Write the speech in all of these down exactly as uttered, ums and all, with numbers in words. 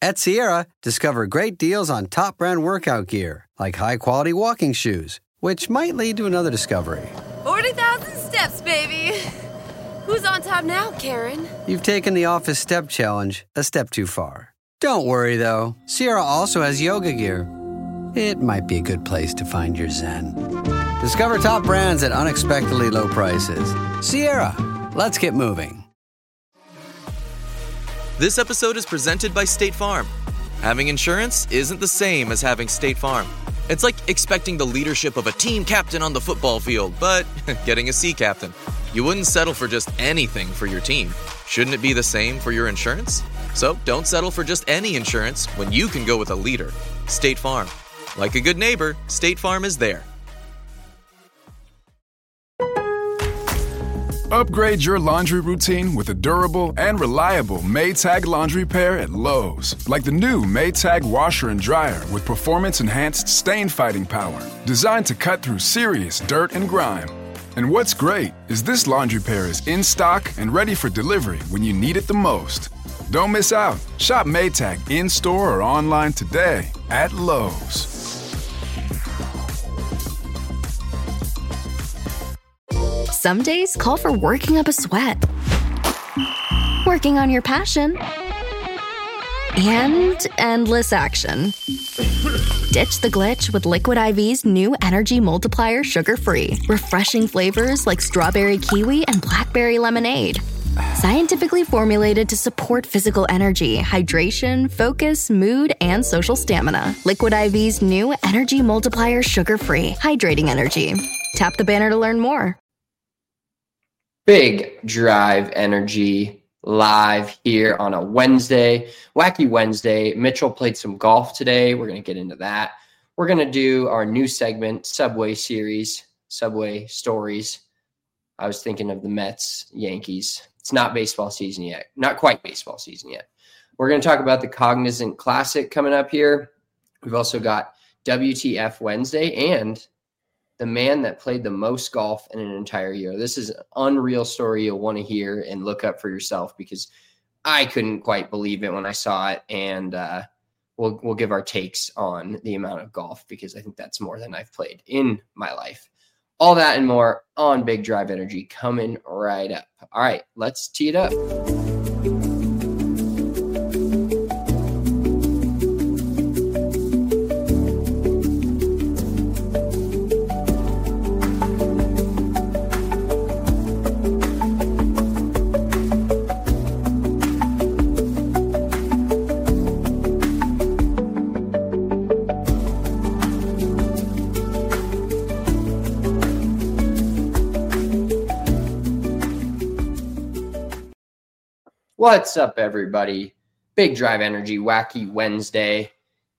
At Sierra, discover great deals on top brand workout gear, like high-quality walking shoes, which might lead to another discovery. forty thousand steps, baby. Who's on top now, Karen? You've taken the office step challenge a step too far. Don't worry, though. Sierra also has yoga gear. It might be a good place to find your zen. Discover top brands at unexpectedly low prices. Sierra, let's get moving. This episode is presented by State Farm. Having insurance isn't the same as having State Farm. It's like expecting the leadership of a team captain on the football field, but getting a sea captain. You wouldn't settle for just anything for your team. Shouldn't it be the same for your insurance? So don't settle for just any insurance when you can go with a leader. State Farm. Like a good neighbor, State Farm is there. Upgrade your laundry routine with a durable and reliable Maytag laundry pair at Lowe's. Like the new Maytag washer and dryer with performance-enhanced stain-fighting power. Designed to cut through serious dirt and grime. And what's great is this laundry pair is in stock and ready for delivery when you need it the most. Don't miss out. Shop Maytag in-store or online today at Lowe's. Some days call for working up a sweat, working on your passion, and endless action. Ditch the glitch with Liquid I V's new Energy Multiplier Sugar-Free. Refreshing flavors like strawberry kiwi and blackberry lemonade. Scientifically formulated to support physical energy, hydration, focus, mood, and social stamina. Liquid I V's new Energy Multiplier Sugar-Free. Hydrating energy. Tap the banner to learn more. Big Drive Energy live here on a Wednesday, Wacky Wednesday. Mitchell played some golf today. We're going to get into that. We're going to do our new segment, Subway Series, Subway Stories. I was thinking of the Mets, Yankees. It's not baseball season yet. Not quite baseball season yet. We're going to talk about the Cognizant Classic coming up here. We've also got W T F Wednesday and the man that played the most golf in an entire year. This is an unreal story you'll want to hear and look up for yourself because I couldn't quite believe it when I saw it. And uh, we'll we'll give our takes on the amount of golf because I think that's more than I've played in my life. All that and more on Big Drive Energy coming right up. All right, let's tee it up. What's up, everybody? Big Drive Energy, Wacky Wednesday.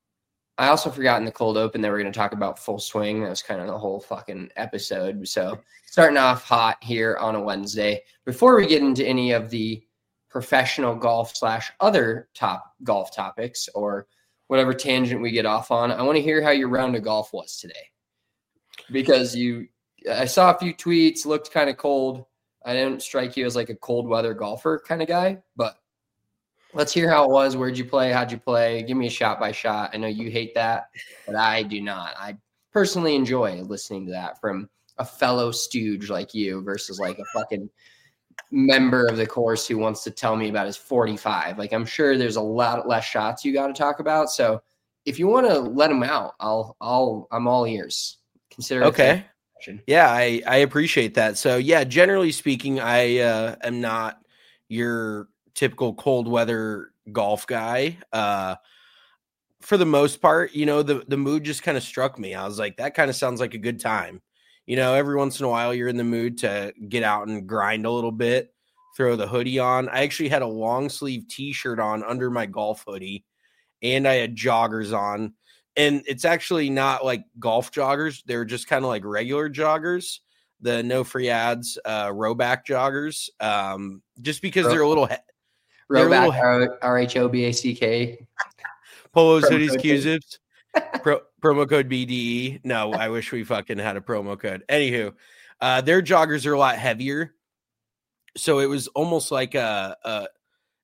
I also forgot in the cold open that we're going to talk about Full Swing. That was kind of the whole fucking episode. So starting off hot here on a Wednesday. Before we get into any of the professional golf slash other top golf topics or whatever tangent we get off on, I want to hear how your round of golf was today. Because you, I saw a few tweets, looked kind of cold. I didn't strike you as like a cold weather golfer kind of guy, but let's hear how it was. Where'd you play? How'd you play? Give me a shot by shot. I know you hate that, but I do not. I personally enjoy listening to that from a fellow stooge like you versus like a fucking member of the course who wants to tell me about his forty-five. Like I'm sure there's a lot less shots you got to talk about. So if you want to let them out, I'll, I'll, I'm all ears. Consider it okay. Yeah, I, I appreciate that. So, yeah, generally speaking, I uh, am not your typical cold weather golf guy. Uh, for the most part, you know, the, the mood just kind of struck me. I was like, that kind of sounds like a good time. You know, every once in a while you're in the mood to get out and grind a little bit, throw the hoodie on. I actually had a long sleeve T-shirt on under my golf hoodie, and I had joggers on. And it's actually not like golf joggers. They're just kind of like regular joggers, the no free ads, uh, Rhoback joggers, um, just because they're a little he- Rhoback, little, R H O B A C K. Polos, hoodies, Q-zips, pro, promo code B D E. No, I wish we fucking had a promo code. Anywho, uh, their joggers are a lot heavier. So it was almost like a, a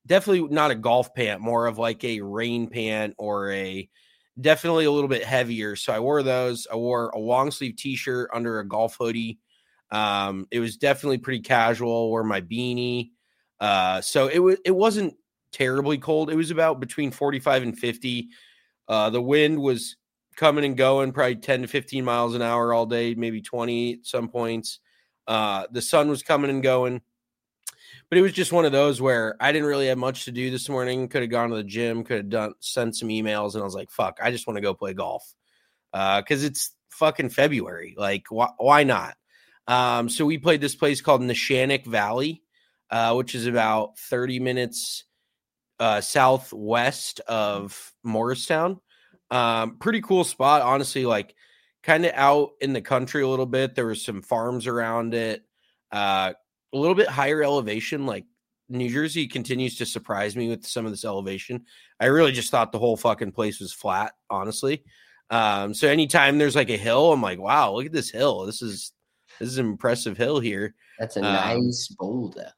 definitely not a golf pant, more of like a rain pant or a definitely a little bit heavier. So I wore those. I wore a long sleeve t-shirt under a golf hoodie. Um, it was definitely pretty casual. Wore my beanie. Uh, so it was, it wasn't terribly cold. It was about between forty-five and fifty. Uh, the wind was coming and going, probably ten to fifteen miles an hour all day, maybe twenty at some points. Uh, the sun was coming and going. But it was just one of those where I didn't really have much to do this morning. Could have gone to the gym, could have done sent some emails, and I was like, fuck, I just want to go play golf. Uh, because it's fucking February. Like, wh- why not? Um, so we played this place called Neshannock Valley, uh, which is about thirty minutes uh, southwest of Morristown. Um, pretty cool spot, honestly, like kind of out in the country a little bit. There was some farms around it. Uh, a little bit higher elevation. Like New Jersey continues to surprise me with some of this elevation. I really just thought the whole fucking place was flat, honestly. Um, so anytime there's like a hill, I'm like, wow, look at this hill. This is, this is an impressive hill here. That's a um, nice boulder.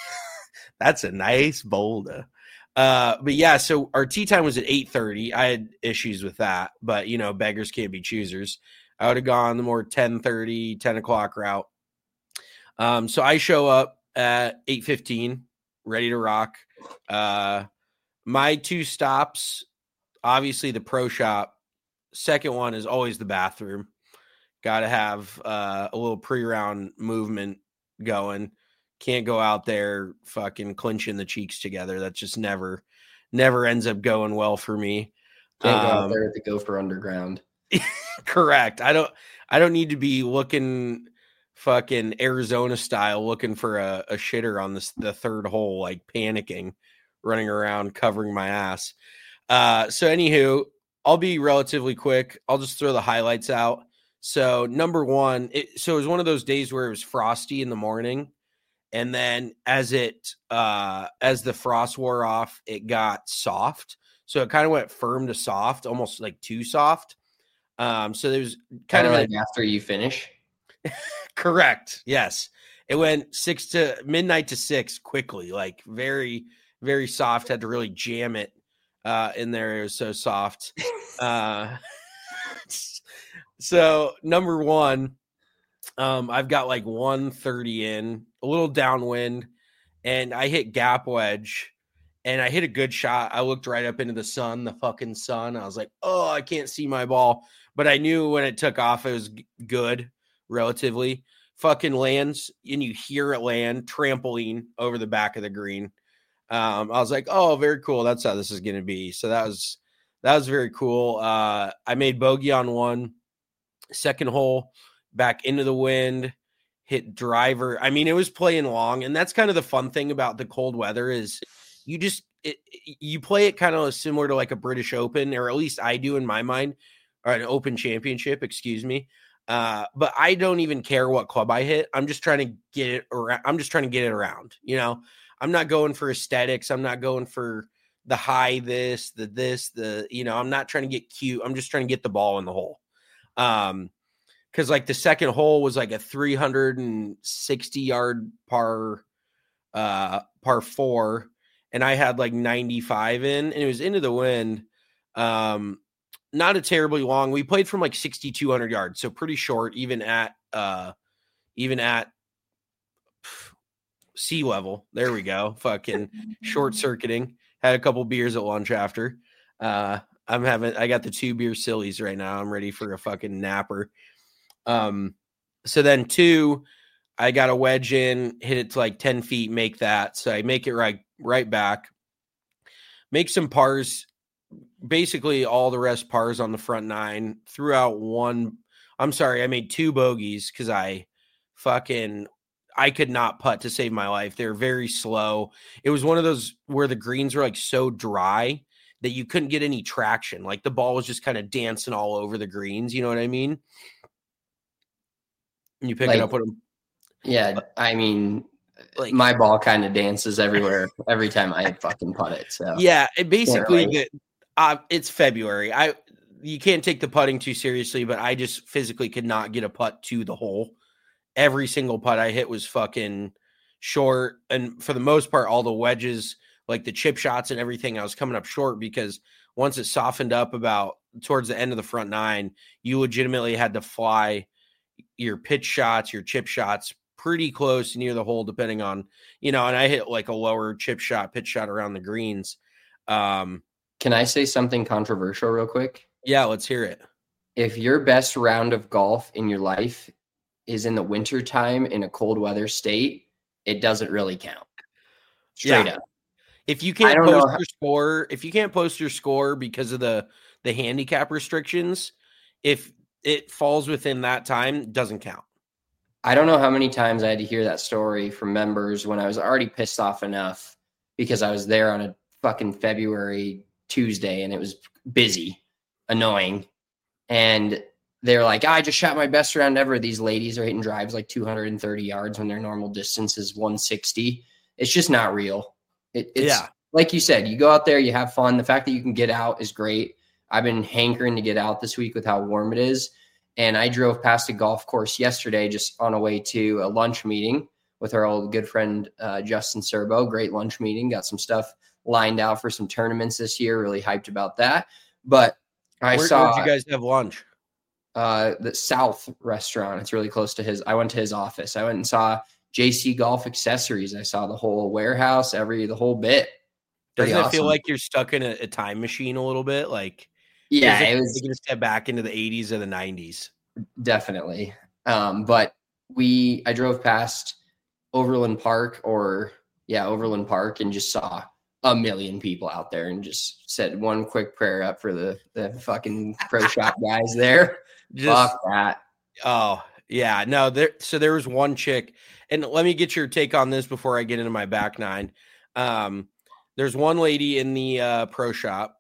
That's a nice boulder. Uh, but yeah, so our tea time was at eight thirty. I had issues with that, but you know, beggars can't be choosers. I would have gone the more ten thirty, ten o'clock route. Um, so I show up at eight fifteen, ready to rock. Uh, my two stops, obviously the pro shop. Second one is always the bathroom. Got to have uh, a little pre-round movement going. Can't go out there fucking clinching the cheeks together. That just never, never ends up going well for me. Can't go out Um, there to go for underground. Correct. I don't, I don't need to be looking fucking Arizona style, looking for a, a shitter on this, the third hole, like panicking, running around, covering my ass. Uh, so anywho, I'll be relatively quick. I'll just throw the highlights out. So number one, it, so it was one of those days where it was frosty in the morning. And then as it, uh, as the frost wore off, it got soft. So it kind of went firm to soft, almost like too soft. Um, so there was kind of like after you finish. Correct. Yes. It went six to midnight to six quickly, like very, very soft. Had to really jam it uh, in there. It was so soft. uh, so number one, um, I've got like one thirty in, a little downwind, and I hit gap wedge, and I hit a good shot. I looked right up into the sun, the fucking sun. I was like, oh, I can't see my ball. But I knew when it took off, it was g- good, relatively. Fucking lands, and you hear it land, trampoline over the back of the green. Um, I was like, oh, very cool. That's how this is going to be. So that was that was very cool. Uh, I made bogey on one. Second hole, back into the wind, hit driver. I mean, it was playing long, and that's kind of the fun thing about the cold weather is you just it, you play it kind of similar to like a British Open, or at least I do in my mind, or an Open Championship, excuse me. Uh, but I don't even care what club I hit. I'm just trying to get it around. I'm just trying to get it around. You know, I'm not going for aesthetics. I'm not going for the high this, the this, the, you know, I'm not trying to get cute. I'm just trying to get the ball in the hole. Um, Because like the second hole was like a three hundred sixty yard par, uh, par four, and I had like ninety-five in, and it was into the wind. Um, not a terribly long. We played from like sixty-two hundred yards, so pretty short, even at uh, even at pff, sea level. There we go. Fucking short circuiting. Had a couple beers at lunch after. Uh, I'm having. I got the two beer sillies right now. I'm ready for a fucking napper. Um, so then two, I got a wedge in, hit it to like ten feet, make that. So I make it right, right back, make some pars, basically all the rest pars on the front nine, threw out one. I'm sorry. I made two bogeys cause I fucking, I could not putt to save my life. They're very slow. It was one of those where the greens were like so dry that you couldn't get any traction. Like the ball was just kind of dancing all over the greens. You know what I mean? You pick like, it up with them. Yeah, I mean, like my ball kind of dances everywhere every time I fucking putt it. So yeah, it basically really. uh, it's February. I you can't take the putting too seriously, but I just physically could not get a putt to the hole. Every single putt I hit was fucking short, and for the most part, all the wedges, like the chip shots and everything, I was coming up short because once it softened up about towards the end of the front nine, you legitimately had to fly your pitch shots, your chip shots pretty close near the hole, depending on, you know, and I hit like a lower chip shot, pitch shot around the greens. Um, Can I say something controversial real quick? Yeah, let's hear it. If your best round of golf in your life is in the winter time in a cold weather state, it doesn't really count. Straight yeah. up. If you can't post post your score, if you can't post your score because of the the handicap restrictions, if it falls within that time, it doesn't count. I don't know how many times I had to hear that story from members when I was already pissed off enough because I was there on a fucking February Tuesday and it was busy, annoying. And they're like, I just shot my best round ever. These ladies are hitting drives like two hundred thirty yards when their normal distance is one sixty. It's just not real. It, it's yeah. Like you said, you go out there, you have fun. The fact that you can get out is great. I've been hankering to get out this week with how warm it is. And I drove past a golf course yesterday just on a way to a lunch meeting with our old good friend, uh, Justin Serbo. Great lunch meeting. Got some stuff lined out for some tournaments this year. Really hyped about that. But I Where, saw. Where'd you guys have lunch? Uh, the South restaurant. It's really close to his. I went to his office. I went and saw J C Golf Accessories. I saw the whole warehouse, every the whole bit. Doesn't Pretty it feel awesome. like you're stuck in a, a time machine a little bit? Like, Yeah, it it was was taking a step back into the eighties or the nineties. definitely. Um, but we, I drove past Overland Park or yeah, Overland Park and just saw a million people out there and just said one quick prayer up for the, the fucking pro shop guys there. Just, Fuck that. Oh, yeah. No, there. So there was one chick, and let me get your take on this before I get into my back nine. Um, there's one lady in the uh, pro shop,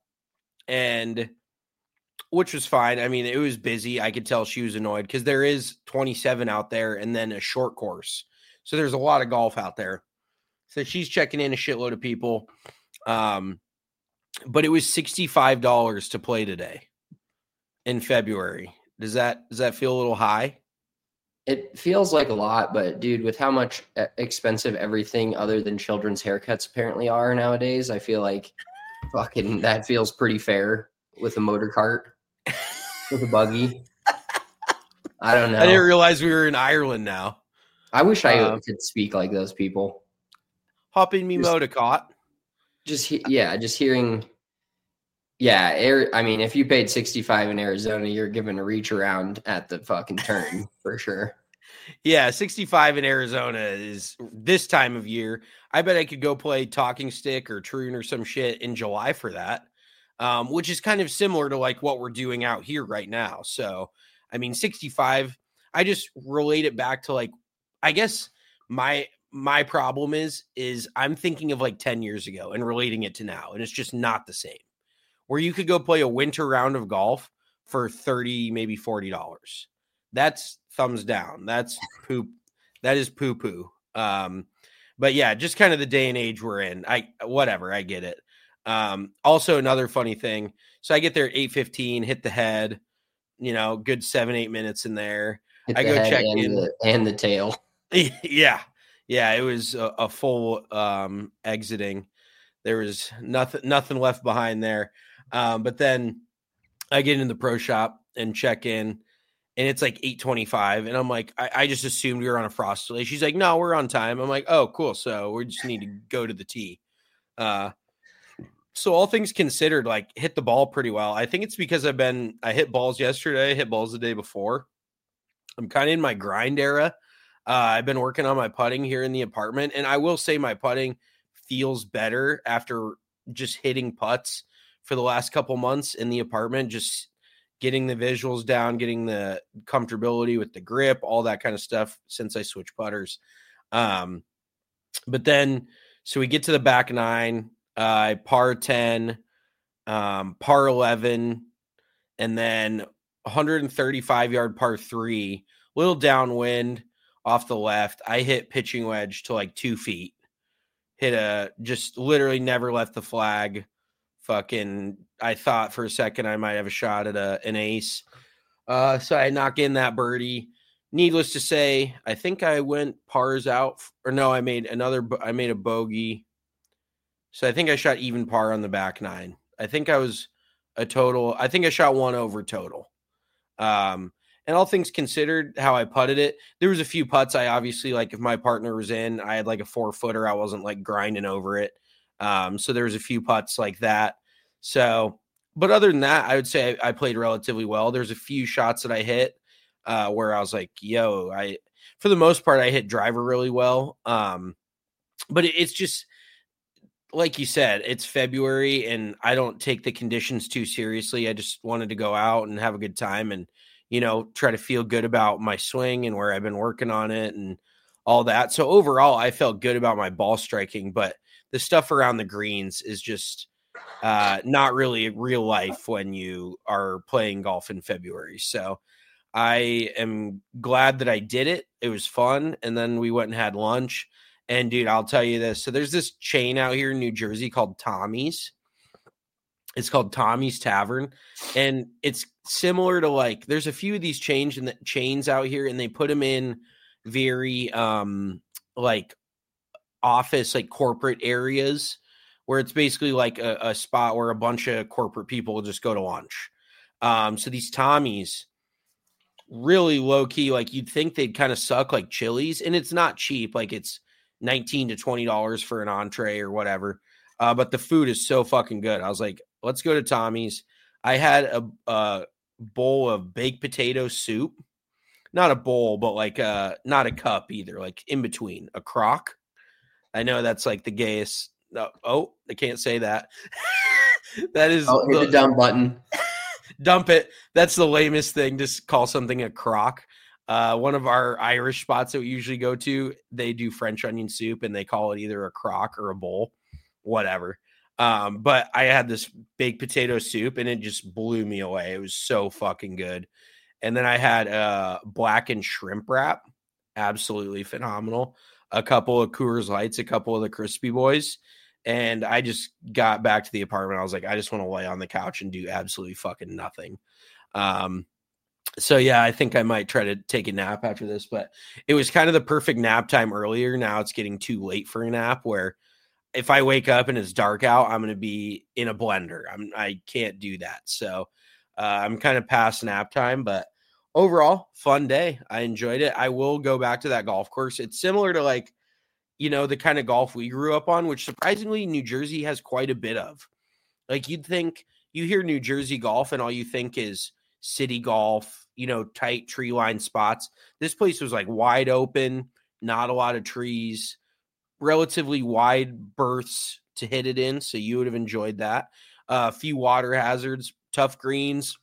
and which was fine. I mean, it was busy. I could tell she was annoyed because there is twenty-seven out there and then a short course. So there's a lot of golf out there. So she's checking in a shitload of people. Um, but it was sixty-five dollars to play today in February. Does that, does that feel a little high? It feels like a lot, but dude, with how much expensive everything other than children's haircuts apparently are nowadays, I feel like fucking that feels pretty fair with a motor cart, with a buggy. I don't know. I didn't realize we were in Ireland now. I wish I Uh, could speak like those people. Hop in me Just- Modicott. Just he- yeah, just hearing. Yeah, air, I mean, if you paid sixty-five in Arizona, you're given a reach around at the fucking turn for sure. Yeah, sixty-five in Arizona is this time of year. I bet I could go play Talking Stick or Troon or some shit in July for that, um, which is kind of similar to like what we're doing out here right now. So, I mean, sixty-five, I just relate it back to like, I guess my my problem is, is I'm thinking of like ten years ago and relating it to now, and it's just not the same. Where you could go play a winter round of golf for thirty, maybe forty dollars. That's thumbs down. That's poop. That is poo poo. Um, but yeah, just kind of the day and age we're in. I, whatever, I get it. Um, also another funny thing. So I get there at eight fifteen, hit the head, you know, good seven, eight minutes in there. Hit I the go head check and in. the, and the tail. Yeah. Yeah. It was a, a full, um, exiting. There was nothing, nothing left behind there. Um, but then I get in the pro shop and check in, and it's like eight twenty-five. And I'm like, I, I just assumed we were on a frost delay. She's like, no, we're on time. I'm like, oh, cool. So we just need to go to the tee. Uh, so all things considered, like hit the ball pretty well. I think it's because I've been, I hit balls yesterday, hit balls the day before. I'm kind of in my grind era. Uh, I've been working on my putting here in the apartment, and I will say my putting feels better after just hitting putts for the last couple months in the apartment, just getting the visuals down, getting the comfortability with the grip, all that kind of stuff since I switched putters. Um, but then, so we get to the back nine, uh, par ten, um, par eleven, and then one thirty-five yard par three, little downwind off the left. I hit pitching wedge to like two feet, hit a, just literally never left the flag. Fucking, I thought for a second I might have a shot at a, an ace. Uh, so I knock in that birdie. Needless to say, I think I went pars out, or no, I made another, I made a bogey. So I think I shot even par on the back nine. I think I was a total. I think I shot one over total. Um, and all things considered, how I putted it, there was a few putts. I obviously, like, if my partner was in, I had like a four footer. I wasn't like grinding over it. Um, so there was a few putts like that. So, but other than that, I would say I, I played relatively well. There's a few shots that I hit uh, where I was like, yo, I, for the most part, I hit driver really well. Um, but it, it's just, like you said, it's February and I don't take the conditions too seriously. I just wanted to go out and have a good time and, you know, try to feel good about my swing and where I've been working on it and all that. So overall, I felt good about my ball striking, but the stuff around the greens is just uh, not really real life when you are playing golf in February. So I am glad that I did it. It was fun. And then we went and had lunch. And dude, I'll tell you this. So there's this chain out here in New Jersey called Tommy's. It's called Tommy's Tavern. And it's similar to, like, there's a few of these chains and the chains out here, and they put them in very um like office, like corporate areas where it's basically like a, a spot where a bunch of corporate people will just go to lunch. Um, so these Tommy's, really low key, like you'd think they'd kind of suck like Chili's, and it's not cheap. Like it's nineteen to twenty dollars for an entree or whatever. Uh, but the food is so fucking good. I was like, let's go to Tommy's. I had a, a bowl of baked potato soup, not a bowl, but like uh not a cup either, like in between, a crock. I know that's like the gayest. No, oh, I can't say that. That is oh, hit the dump button. Dump it. That's the lamest thing to call something a crock. Uh, one of our Irish spots that we usually go to, they do French onion soup and they call it either a crock or a bowl, whatever. Um, but I had this baked potato soup and it just blew me away. It was so fucking good. And then I had a blackened shrimp wrap, absolutely phenomenal. A couple of Coors Lights, a couple of the Crispy Boys. And I just got back to the apartment. I was like, I just want to lay on the couch and do absolutely fucking nothing. Um, so yeah, I think I might try to take a nap after this, but it was kind of the perfect nap time earlier. Now it's getting too late for a nap, where if I wake up and it's dark out, I'm going to be in a blender. I'm, I can't do that. So uh, I'm kind of past nap time, but overall fun day. I enjoyed it. I will go back to that golf course. It's similar to, like, you know, the kind of golf we grew up on, which surprisingly New Jersey has quite a bit of. Like, you'd think, you hear New Jersey golf and all you think is city golf, you know, tight tree line spots. This place was like wide open, not a lot of trees, relatively wide berths to hit it in. So you would have enjoyed that. Uh, a few water hazards, tough greens.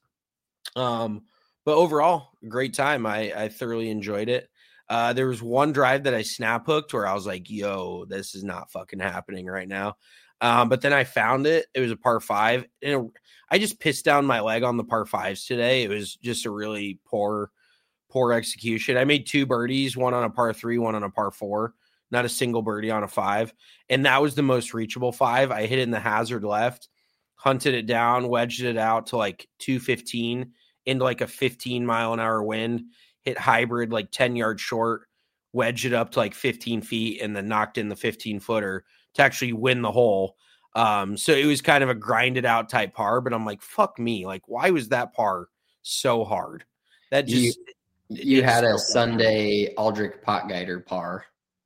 Um, but overall, great time. I, I thoroughly enjoyed it. Uh, there was one drive that I snap hooked where I was like, yo, this is not fucking happening right now. Um, but then I found it. It was a par five. And it, I just pissed down my leg on the par fives today. It was just a really poor, poor execution. I made two birdies, one on a par three, one on a par four, not a single birdie on a five. And that was the most reachable five. I hit it in the hazard left, hunted it down, wedged it out to like two fifteen into like a fifteen mile an hour wind. Hit hybrid like ten yards short, wedged it up to like fifteen feet, and then knocked in the fifteen footer to actually win the hole. Um, so it was kind of a grinded out type par, but I'm like, fuck me. Like, why was that par so hard? That just, you, you had a Sunday Aldrich Potgieter par.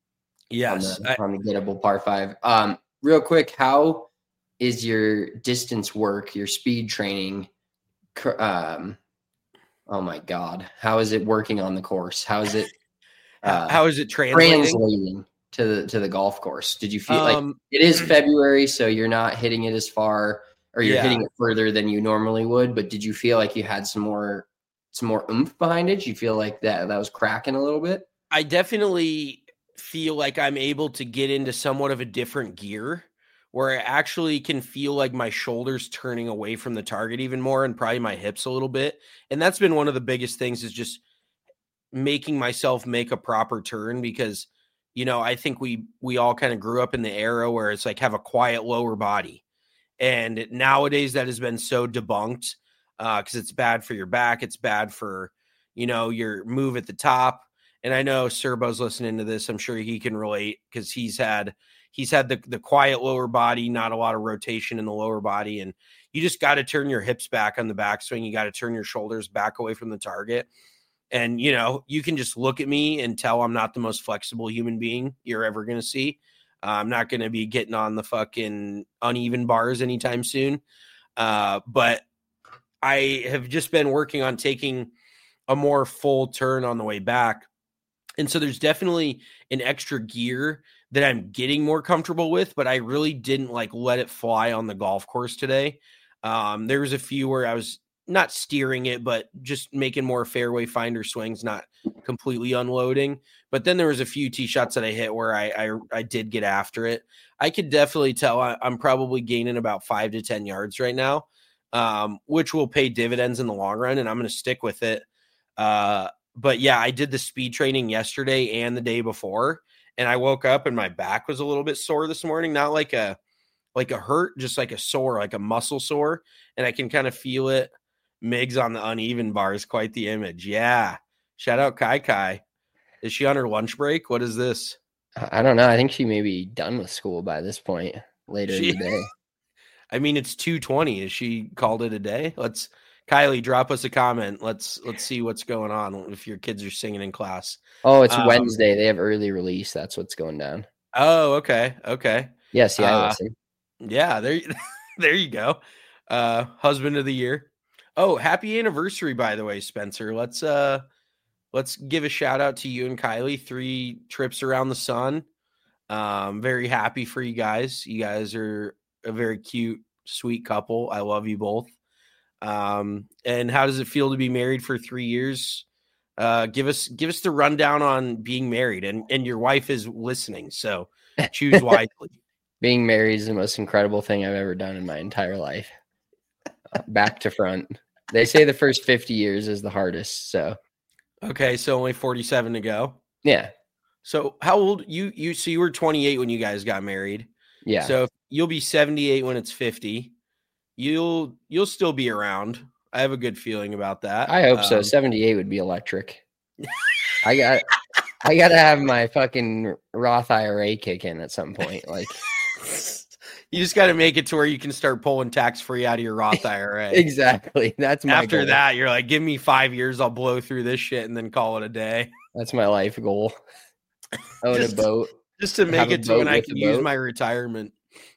Yes. On the, on the gettable par five. Um, real quick, how is your distance work, your speed training? Um, Oh my God. How is it working on the course? How is it, uh, how is it translating? translating to the, to the golf course? Did you feel um, like it is February, so you're not hitting it as far, or you're yeah. hitting it further than you normally would, but did you feel like you had some more, some more oomph behind it? Did you feel like that, that was cracking a little bit? I definitely feel like I'm able to get into somewhat of a different gear, where I actually can feel like my shoulders turning away from the target even more, and probably my hips a little bit. And that's been one of the biggest things, is just making myself make a proper turn, because, you know, I think we, we all kind of grew up in the era where it's like, have a quiet lower body. And nowadays that has been so debunked uh, because it's bad for your back. It's bad for, you know, your move at the top. And I know Serbo's listening to this. I'm sure he can relate, because he's had, he's had the, the quiet lower body, not a lot of rotation in the lower body. And you just got to turn your hips back on the backswing. You got to turn your shoulders back away from the target. And, you know, you can just look at me and tell I'm not the most flexible human being you're ever going to see. Uh, I'm not going to be getting on the fucking uneven bars anytime soon. Uh, but I have just been working on taking a more full turn on the way back. And so there's definitely an extra gear that I'm getting more comfortable with, but I really didn't like let it fly on the golf course today. Um, there was a few where I was not steering it, but just making more fairway finder swings, not completely unloading. But then there was a few tee shots that I hit where I I, I did get after it. I could definitely tell I, I'm probably gaining about five to ten yards right now, um, which will pay dividends in the long run, and I'm going to stick with it. Uh, but yeah, I did the speed training yesterday and the day before, and I woke up and my back was a little bit sore this morning. Not like a like a hurt, just like a sore, like a muscle sore, and I can kind of feel it. Migs on the uneven bars, quite the image. Yeah. Shout out Kai Kai. Is she on her lunch break? What is this? I don't know. I think she may be done with school by this point later She, in the day. I mean, it's two twenty. Is she called it a day? Let's Kylie, drop us a comment. Let's let's see what's going on if your kids are singing in class. Oh, it's um, Wednesday. They have early release. That's what's going down. Oh, okay. Okay. Yes, yeah, I Uh, listen. Yeah, there, there you go. Uh, husband of the year. Oh, happy anniversary, by the way, Spencer. Let's uh let's give a shout out to you and Kylie. Three trips around the sun. Um, very happy for you guys. You guys are a very cute, sweet couple. I love you both. Um, and how does it feel to be married for three years? Uh, give us give us the rundown on being married, and and your wife is listening, so choose wisely. Being married is the most incredible thing I've ever done in my entire life. Uh, back to front. They say the first fifty years is the hardest. So, Okay, so only forty-seven to go. yeah. So how old you you so you were twenty-eight when you guys got married. Yeah. So you'll be seventy-eight when it's fifty. You'll you'll still be around. I have a good feeling about that. I hope so. Um, seventy-eight would be electric. I got I got to have my fucking Roth I R A kick in at some point. Like, you just got to make it to where you can start pulling tax free out of your Roth I R A. exactly. That's my After goal. that, you're like, give me five years, I'll blow through this shit and then call it a day. That's my life goal. Own Just- a boat. Just to make Have a it to when boat I with can a use boat. my retirement.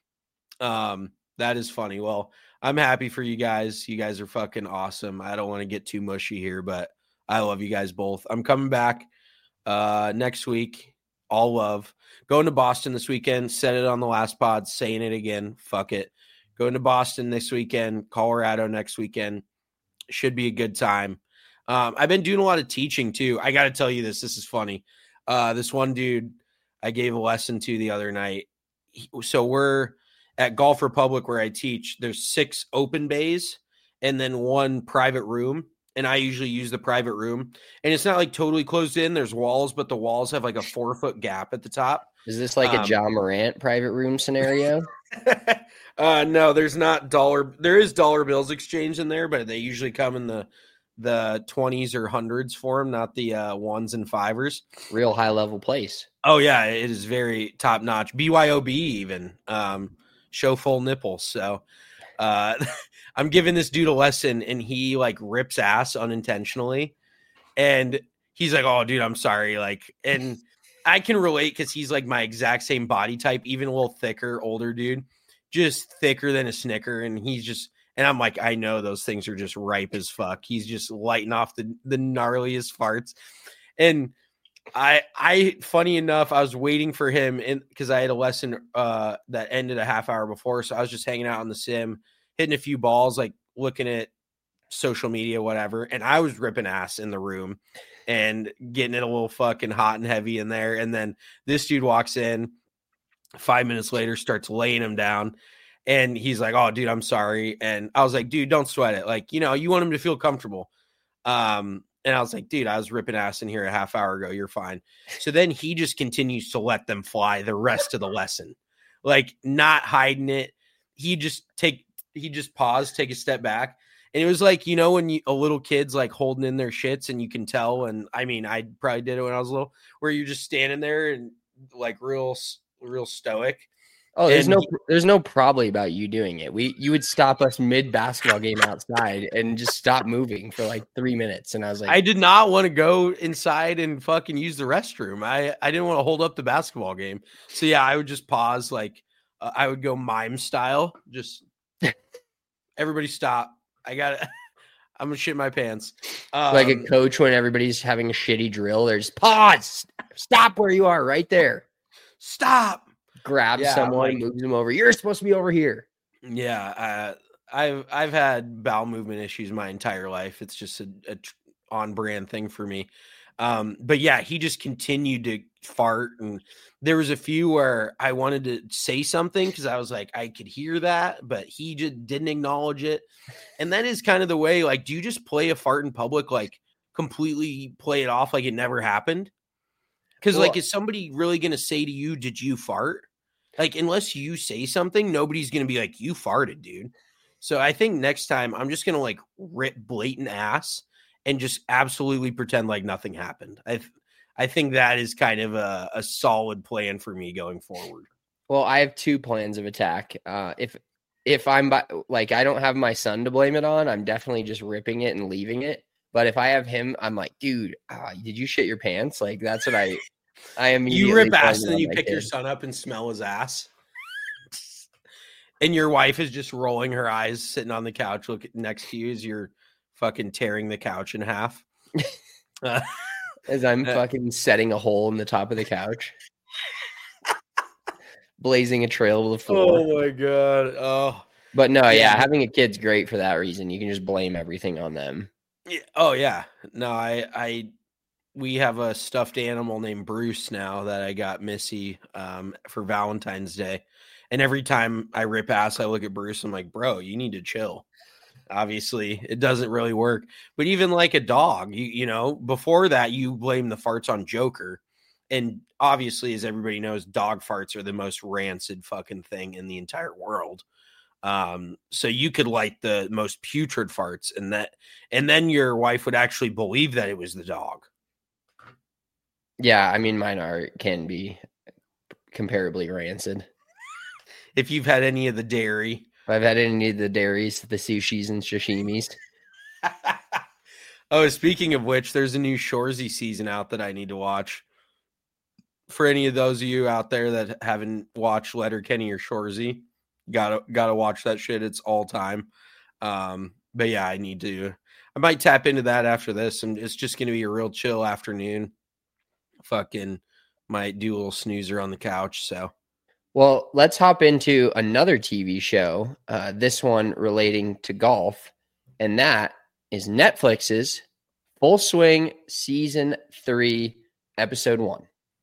Um, that is funny. Well, I'm happy for you guys. You guys are fucking awesome. I don't want to get too mushy here, but I love you guys both. I'm coming back uh next week. All love. Going to Boston this weekend. Said it on the last pod, saying it again. Fuck it. Going to Boston this weekend, Colorado next weekend. Should be a good time. Um, I've been doing a lot of teaching too. I got to tell you this. This is funny. Uh, this one dude I gave a lesson to the other night. He- So we're at Golf Republic where I teach. There's six open bays and then one private room. And I usually use the private room. And it's not like totally closed in. There's walls, but the walls have like a four foot gap at the top. Is this like Um, a John Morant private room scenario? uh, no, there's not dollar. There is dollar bills exchange in there, but they usually come in the the twenties or hundreds for them, not the uh, ones and fivers. Real high level place. Oh yeah, it is very top notch. B Y O B even um, show full nipples. So uh, I'm giving this dude a lesson, and he like rips ass unintentionally, and he's like, "Oh, dude, I'm sorry." Like, and I can relate because he's like my exact same body type, even a little thicker, older dude, just thicker than a Snicker, and he's just. And I'm like, I know those things are just ripe as fuck. He's just lighting off the, the gnarliest farts. And I, I, funny enough, I was waiting for him in because I had a lesson uh, that ended a half hour before. So I was just hanging out on the sim, hitting a few balls, like looking at social media, whatever. And I was ripping ass in the room and getting it a little fucking hot and heavy in there. And then this dude walks in five minutes later, starts laying him down. And he's like, "Oh, dude, I'm sorry." And I was like, "Dude, don't sweat it. Like, you know, you want him to feel comfortable." Um, and I was like, "Dude, I was ripping ass in here a half hour ago. You're fine." So then he just continues to let them fly the rest of the lesson, like not hiding it. He just take, he just paused, take a step back. And it was like, you know, when you, a little kid's like holding in their shits and you can tell. And I mean, I probably did it when I was little, where you're just standing there and like real, real stoic. Oh, there's And no, he- there's no probably about you doing it. We, you would stop us mid basketball game outside and just stop moving for like three minutes. And I was like, I did not want to go inside and fucking use the restroom. I, I didn't want to hold up the basketball game. So yeah, I would just pause. Like uh, I would go mime style. Just everybody stop. I got it. I'm gonna shit my pants. Um, like a coach when everybody's having a shitty drill. There's pause, stop where you are, right there. stop. Grab Yeah, someone, like- moves them over. You're supposed to be over here. Yeah, uh, I've I've had bowel movement issues my entire life. It's just a, a tr- on brand thing for me. Um, but yeah, he just continued to fart, and there was a few where I wanted to say something because I was like, I could hear that, but he just didn't acknowledge it. And that is kind of the way. Like, do you just play a fart in public, like completely play it off like it never happened? Because Well- like, is somebody really gonna say to you, "Did you fart?" Like, unless you say something, nobody's going to be like, you farted, dude. So I think next time I'm just going to like rip blatant ass and just absolutely pretend like nothing happened. I th- I think that is kind of a, a solid plan for me going forward. Well, I have two plans of attack. Uh, if if I'm by, like I don't have my son to blame it on, I'm definitely just ripping it and leaving it. But if I have him, I'm like, dude, uh, did you shit your pants? Like that's what I I immediately You rip blame ass it and then on you my pick your kid. son up and smell his ass. And your wife is just rolling her eyes, sitting on the couch look next to you as you're fucking tearing the couch in half. Uh, As I'm Uh, fucking setting a hole in the top of the couch, blazing a trail to the floor. oh my god. Oh. But no, yeah, Yeah. having a kid's great for that reason. You can just blame everything on them. Yeah. Oh yeah. No, I I we have a stuffed animal named Bruce now that I got Missy um for Valentine's Day. And every time I rip ass, I look at Bruce, I'm like, bro, you need to chill. Obviously, it doesn't really work. But even like a dog, you you know, before that, you blame the farts on Joker. And obviously, as everybody knows, dog farts are the most rancid fucking thing in the entire world. Um, so you could light the most putrid farts, and that, and then your wife would actually believe that it was the dog. Yeah, I mean, mine are can be comparably rancid. If you've had any of the dairy, If I've had any of the dairies, the sushis and sashimis. oh, speaking of which, there's a new Shoresy season out that I need to watch. For any of those of you out there that haven't watched Letterkenny or Shoresy, gotta gotta watch that shit. It's all time. Um, but yeah, I need to. I might tap into that after this, and it's just gonna be a real chill afternoon. Fucking might do a little snoozer on the couch. So Well, let's hop into another T V show. Uh, this one relating to golf, and that is Netflix's Full Swing Season Three, Episode One.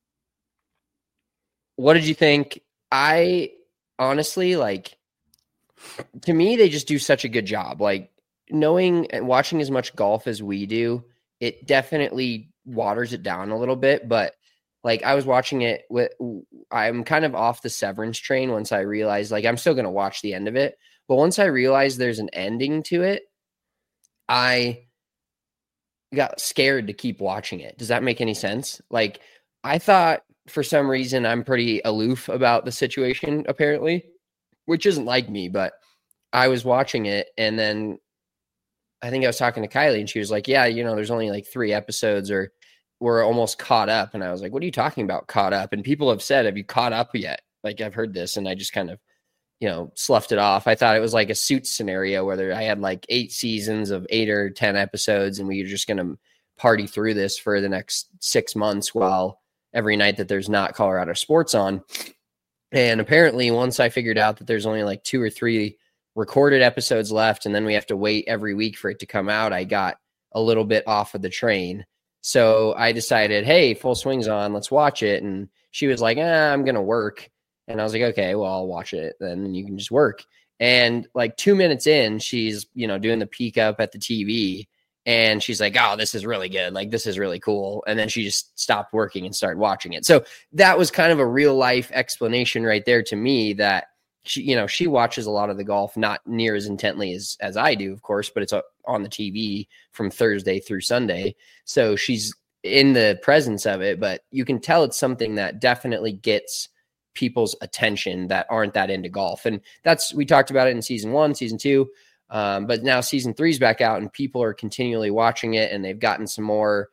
What did you think? I honestly like. To me, they just do such a good job. Like knowing and watching as much golf as we do, it definitely waters it down a little bit. But like I was watching it with, I'm kind of off the Severance train once I realized, like I'm still going to watch the end of it. But once I realized there's an ending to it, I got scared to keep watching it. Does that make any sense? Like I thought for some reason I'm pretty aloof about the situation, apparently, which isn't like me, but I was watching it and then I think I was talking to Kylie and she was like, yeah, you know, there's only like three episodes or we're almost caught up. And I was like, what are you talking about caught up? And people have said, have you caught up yet? Like I've heard this and I just kind of, you know, sloughed it off. I thought it was like a Suits scenario where there, I had like eight seasons of eight or ten episodes and we were just going to party through this for the next six months while every night that there's not Colorado sports on. And apparently once I figured out that there's only like two or three recorded episodes left and then we have to wait every week for it to come out, I got a little bit off of the train. So I decided, hey, Full Swing's on, let's watch it. And she was like, eh, I'm going to work. And I was like, okay, well, I'll watch it then and you can just work. And like two minutes in, she's, you know, doing the peek up at the T V and she's like, oh, this is really good. Like, this is really cool. And then she just stopped working and started watching it. So that was kind of a real life explanation right there to me that she, you know, she watches a lot of the golf, not near as intently as, as I do, of course, but it's on the T V from Thursday through Sunday. So she's in the presence of it, but you can tell it's something that definitely gets people's attention that aren't that into golf. And that's, we talked about it in season one, season two, um, but now season three's back out and people are continually watching it, and they've gotten some more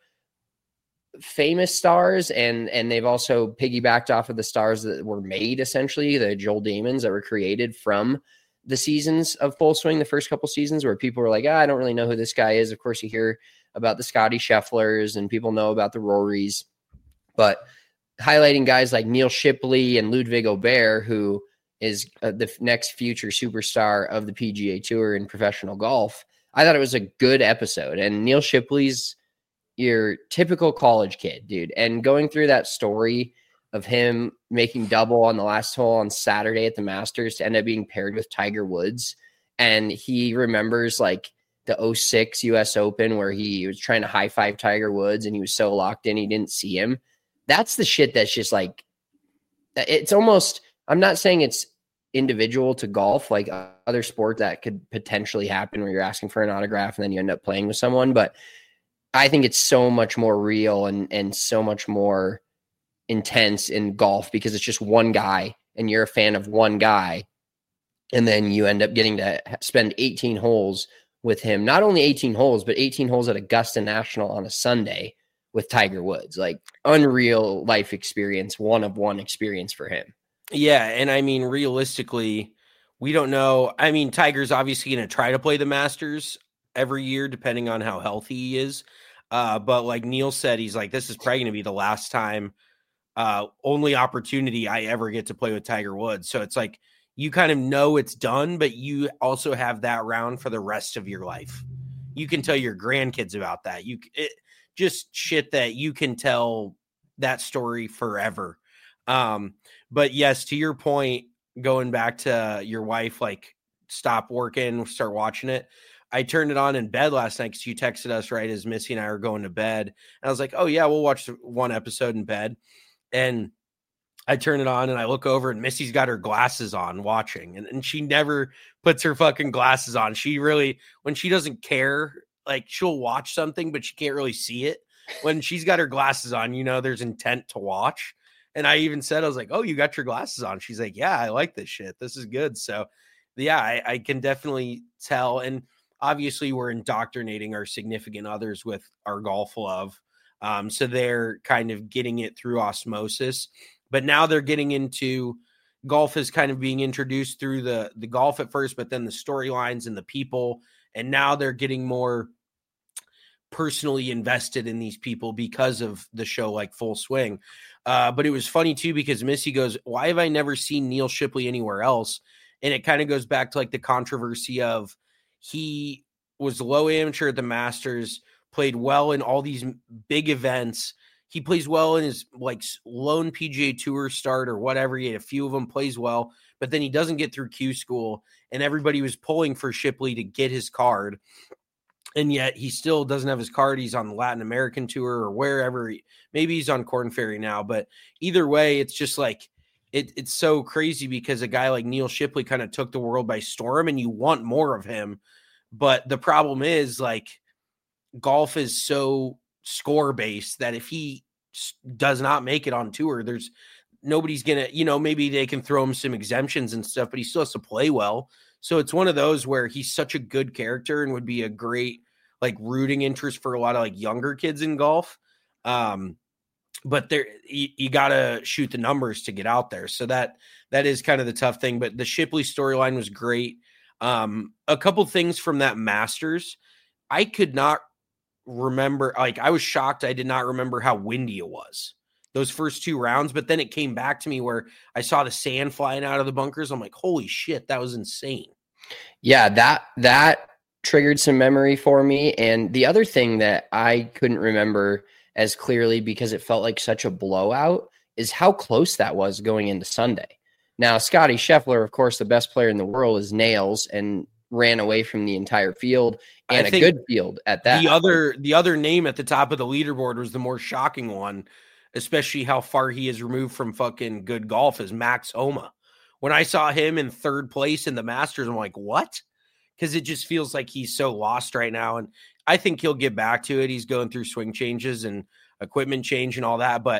famous stars, and and they've also piggybacked off of the stars that were made, essentially the Joel Damons that were created from the seasons of Full Swing, the first couple seasons, where people were like, ah, I don't really know who this guy is. Of course, you hear about the Scotty Schefflers and people know about the Rorys, but highlighting guys like Neil Shipley and Ludwig Aubert, who is uh, the next future superstar of the P G A Tour in professional golf. I thought it was a good episode, and Neil Shipley's your typical college kid, dude. And going through that story of him making double on the last hole on Saturday at the Masters to end up being paired with Tiger Woods. And he remembers like the oh six U S Open where he was trying to high five Tiger Woods and he was so locked in, he didn't see him. That's the shit that's just like, it's almost, I'm not saying it's individual to golf, like other sport that could potentially happen where you're asking for an autograph and then you end up playing with someone. But I think it's so much more real and, and so much more intense in golf because it's just one guy and you're a fan of one guy. And then you end up getting to spend eighteen holes with him, not only eighteen holes, but eighteen holes at Augusta National on a Sunday with Tiger Woods, like unreal life experience, one of one experience for him. Yeah. And I mean, realistically, we don't know. I mean, Tiger's obviously going to try to play the Masters every year, depending on how healthy he is. Uh, but like Neil said, he's like, this is probably going to be the last time, uh, only opportunity I ever get to play with Tiger Woods. So it's like, you kind of know it's done, but you also have that round for the rest of your life. You can tell your grandkids about that. You it, just shit that you can tell that story forever. Um, but yes, to your point, going back to your wife, like stop working, start watching it. I turned it on in bed last night because you texted us right as Missy and I were going to bed. And I was like, oh, yeah, we'll watch one episode in bed. And I turn it on and I look over and Missy's got her glasses on watching. And, and she never puts her fucking glasses on. She really, when she doesn't care, like she'll watch something, but she can't really see it. When she's got her glasses on, you know, there's intent to watch. And I even said, I was like, oh, you got your glasses on. She's like, yeah, I like this shit. This is good. So, yeah, I, I can definitely tell. And obviously, we're indoctrinating our significant others with our golf love. Um, so they're kind of getting it through osmosis. But now they're getting into golf is kind of being introduced through the, the golf at first, but then the storylines and the people. And now they're getting more personally invested in these people because of the show like Full Swing. Uh, but it was funny, too, because Missy goes, why have I never seen Neil Shipley anywhere else? And it kind of goes back to like the controversy of he was low amateur at the Masters, played well in all these big events. He plays well in his like lone P G A Tour start or whatever. He had a few of them, plays well, but then he doesn't get through Q school, and everybody was pulling for Shipley to get his card. And yet he still doesn't have his card. He's on the Latin American tour or wherever. He, maybe he's on Korn Ferry now, but either way, it's just like, it, it's so crazy because a guy like Neil Shipley kind of took the world by storm and you want more of him. But the problem is like golf is so score based that if he does not make it on tour, there's nobody's going to, you know, maybe they can throw him some exemptions and stuff, but he still has to play well. So it's one of those where he's such a good character and would be a great like rooting interest for a lot of like younger kids in golf. Um, but there, you, you got to shoot the numbers to get out there. So that, that is kind of the tough thing, but the Shipley storyline was great. Um, a couple things from that Masters, I could not remember, like I was shocked. I did not remember how windy it was those first two rounds, but then it came back to me where I saw the sand flying out of the bunkers. I'm like, holy shit, that was insane. Yeah, that that triggered some memory for me. And the other thing that I couldn't remember as clearly because it felt like such a blowout is how close that was going into Sunday. Now, Scotty Scheffler, of course, the best player in the world, is nails and ran away from the entire field and a good field at that. The other the other name at the top of the leaderboard was the more shocking one, especially how far he is removed from fucking good golf, is Max Homa. When I saw him in third place in the Masters, I'm like, what? Because it just feels like he's so lost right now. And I think he'll get back to it. He's going through swing changes and equipment change and all that. But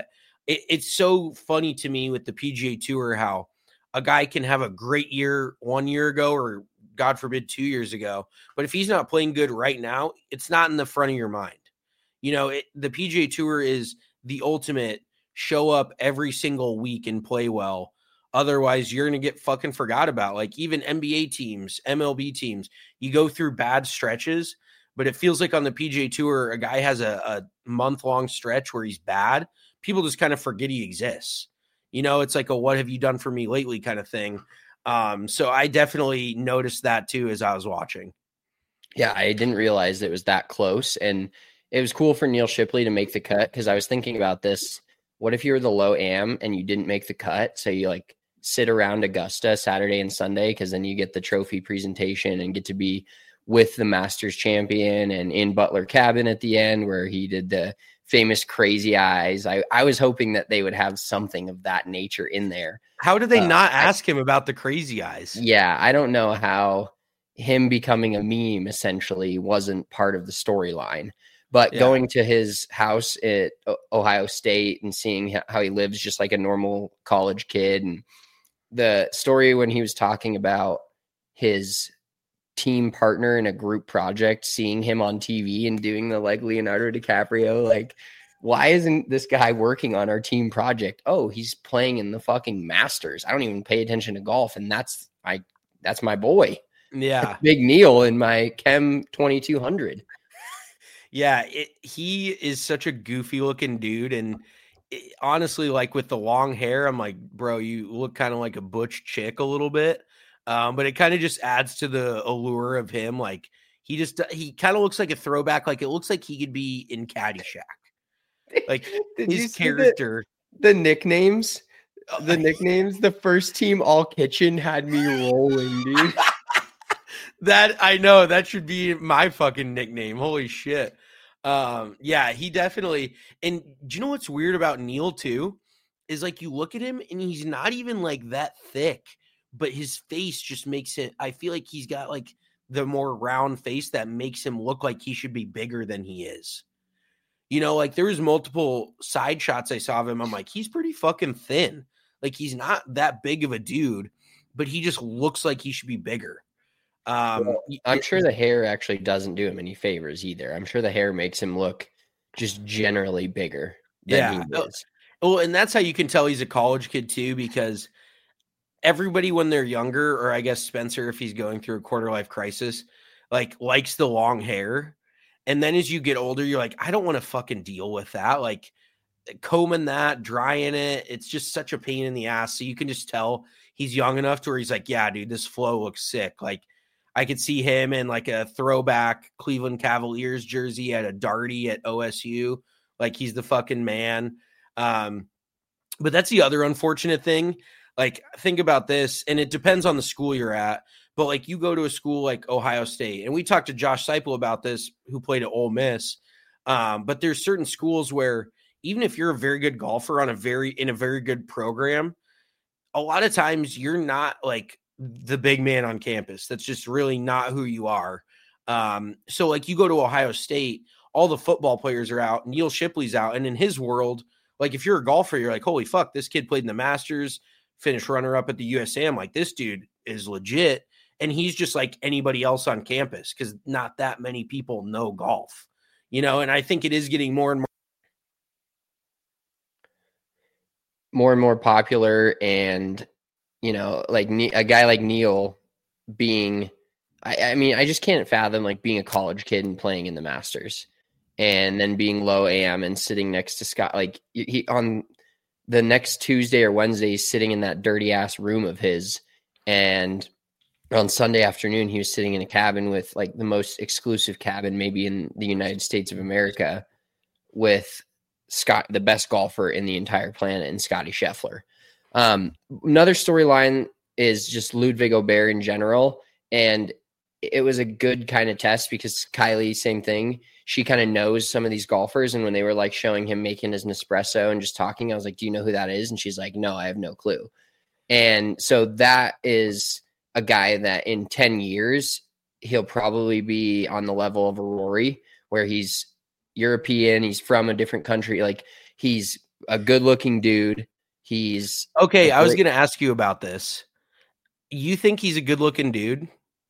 it, it's so funny to me with the P G A Tour how a guy can have a great year one year ago or God forbid two years ago, but if he's not playing good right now, it's not in the front of your mind. You know, it, the P G A Tour is the ultimate show up every single week and play well. Otherwise, you're going to get fucking forgot about. Like even N B A teams, M L B teams, you go through bad stretches, but it feels like on the P G A Tour, a guy has a, a month-long stretch where he's bad. People just kind of forget he exists. You know, it's like a what have you done for me lately kind of thing. Um, so I definitely noticed that too as I was watching. Yeah, I didn't realize it was that close. And it was cool for Neil Shipley to make the cut because I was thinking about this. What if you were the low am and you didn't make the cut? So you like sit around Augusta Saturday and Sunday because then you get the trophy presentation and get to be with the Masters champion and in Butler Cabin at the end where he did the famous crazy eyes. I, I was hoping that they would have something of that nature in there. How did they uh, not ask I, him about the crazy eyes? Yeah, I don't know how him becoming a meme essentially wasn't part of the storyline. But yeah. Going to his house at Ohio State and seeing how he lives just like a normal college kid, and the story when he was talking about his team partner in a group project, seeing him on T V and doing the like Leonardo DiCaprio, like, why isn't this guy working on our team project? Oh, he's playing in the fucking Masters. I don't even pay attention to golf, and that's my that's my boy. Yeah, Big Neil in my Chem twenty-two hundred. Yeah, it, he is such a goofy looking dude. And it, honestly, like with the long hair, I'm like, bro, you look kind of like a butch chick a little bit. Um, but it kind of just adds to the allure of him. Like he just, he kind of looks like a throwback. Like it looks like he could be in Caddyshack. Like his character. The, the nicknames, the nicknames, the first team all kitchen had me rolling, dude. That I know that should be my fucking nickname. Holy shit. Um, yeah, he definitely. And do you know what's weird about Neil too? Is like you look at him and he's not even like that thick, but his face just makes it. I feel like he's got like the more round face that makes him look like he should be bigger than he is. You know, like there was multiple side shots I saw of him. I'm like, he's pretty fucking thin. Like he's not that big of a dude, but he just looks like he should be bigger. Um, well, I'm sure the hair actually doesn't do him any favors either. I'm sure the hair makes him look just generally bigger than yeah. he is. Well, and that's how you can tell he's a college kid too, because everybody when they're younger, or I guess Spencer, if he's going through a quarter life crisis, like likes the long hair. And then as you get older, you're like, I don't want to fucking deal with that. Like combing that, drying it. It's just such a pain in the ass. So you can just tell he's young enough to where he's like, yeah, dude, this flow looks sick. Like, I could see him in like a throwback Cleveland Cavaliers jersey at a Darty at O S U. Like he's the fucking man. Um, but that's the other unfortunate thing. Like think about this, and it depends on the school you're at. But like you go to a school like Ohio State, and we talked to Josh Seipel about this, who played at Ole Miss. Um, but there's certain schools where even if you're a very good golfer on a very in a very good program, a lot of times you're not like the big man on campus. That's just really not who you are. Um, so like you go to Ohio State, all the football players are out, Neil Shipley's out. And in his world, like if you're a golfer, you're like, holy fuck, this kid played in the Masters, finished runner up at the U S A M. Like this dude is legit. And he's just like anybody else on campus because not that many people know golf, you know? And I think it is getting more and more. More and more popular, and you know, like a guy like Neil being, I, I mean, I just can't fathom like being a college kid and playing in the Masters and then being low A M and sitting next to Scott, like he on the next Tuesday or Wednesday, he's sitting in that dirty ass room of his. And on Sunday afternoon, he was sitting in a cabin with like the most exclusive cabin, maybe in the United States of America, with Scott, the best golfer in the entire planet, and Scotty Scheffler. Um, another storyline is just Ludwig Aubert in general. And it was a good kind of test because Kylie, same thing. She kind of knows some of these golfers. And when they were like showing him making his Nespresso and just talking, I was like, do you know who that is? And she's like, no, I have no clue. And so that is a guy that in ten years, he'll probably be on the level of a Rory, where he's European. He's from a different country. Like he's a good-looking dude. He's okay. I was great- going to ask you about this. You think he's a good-looking dude?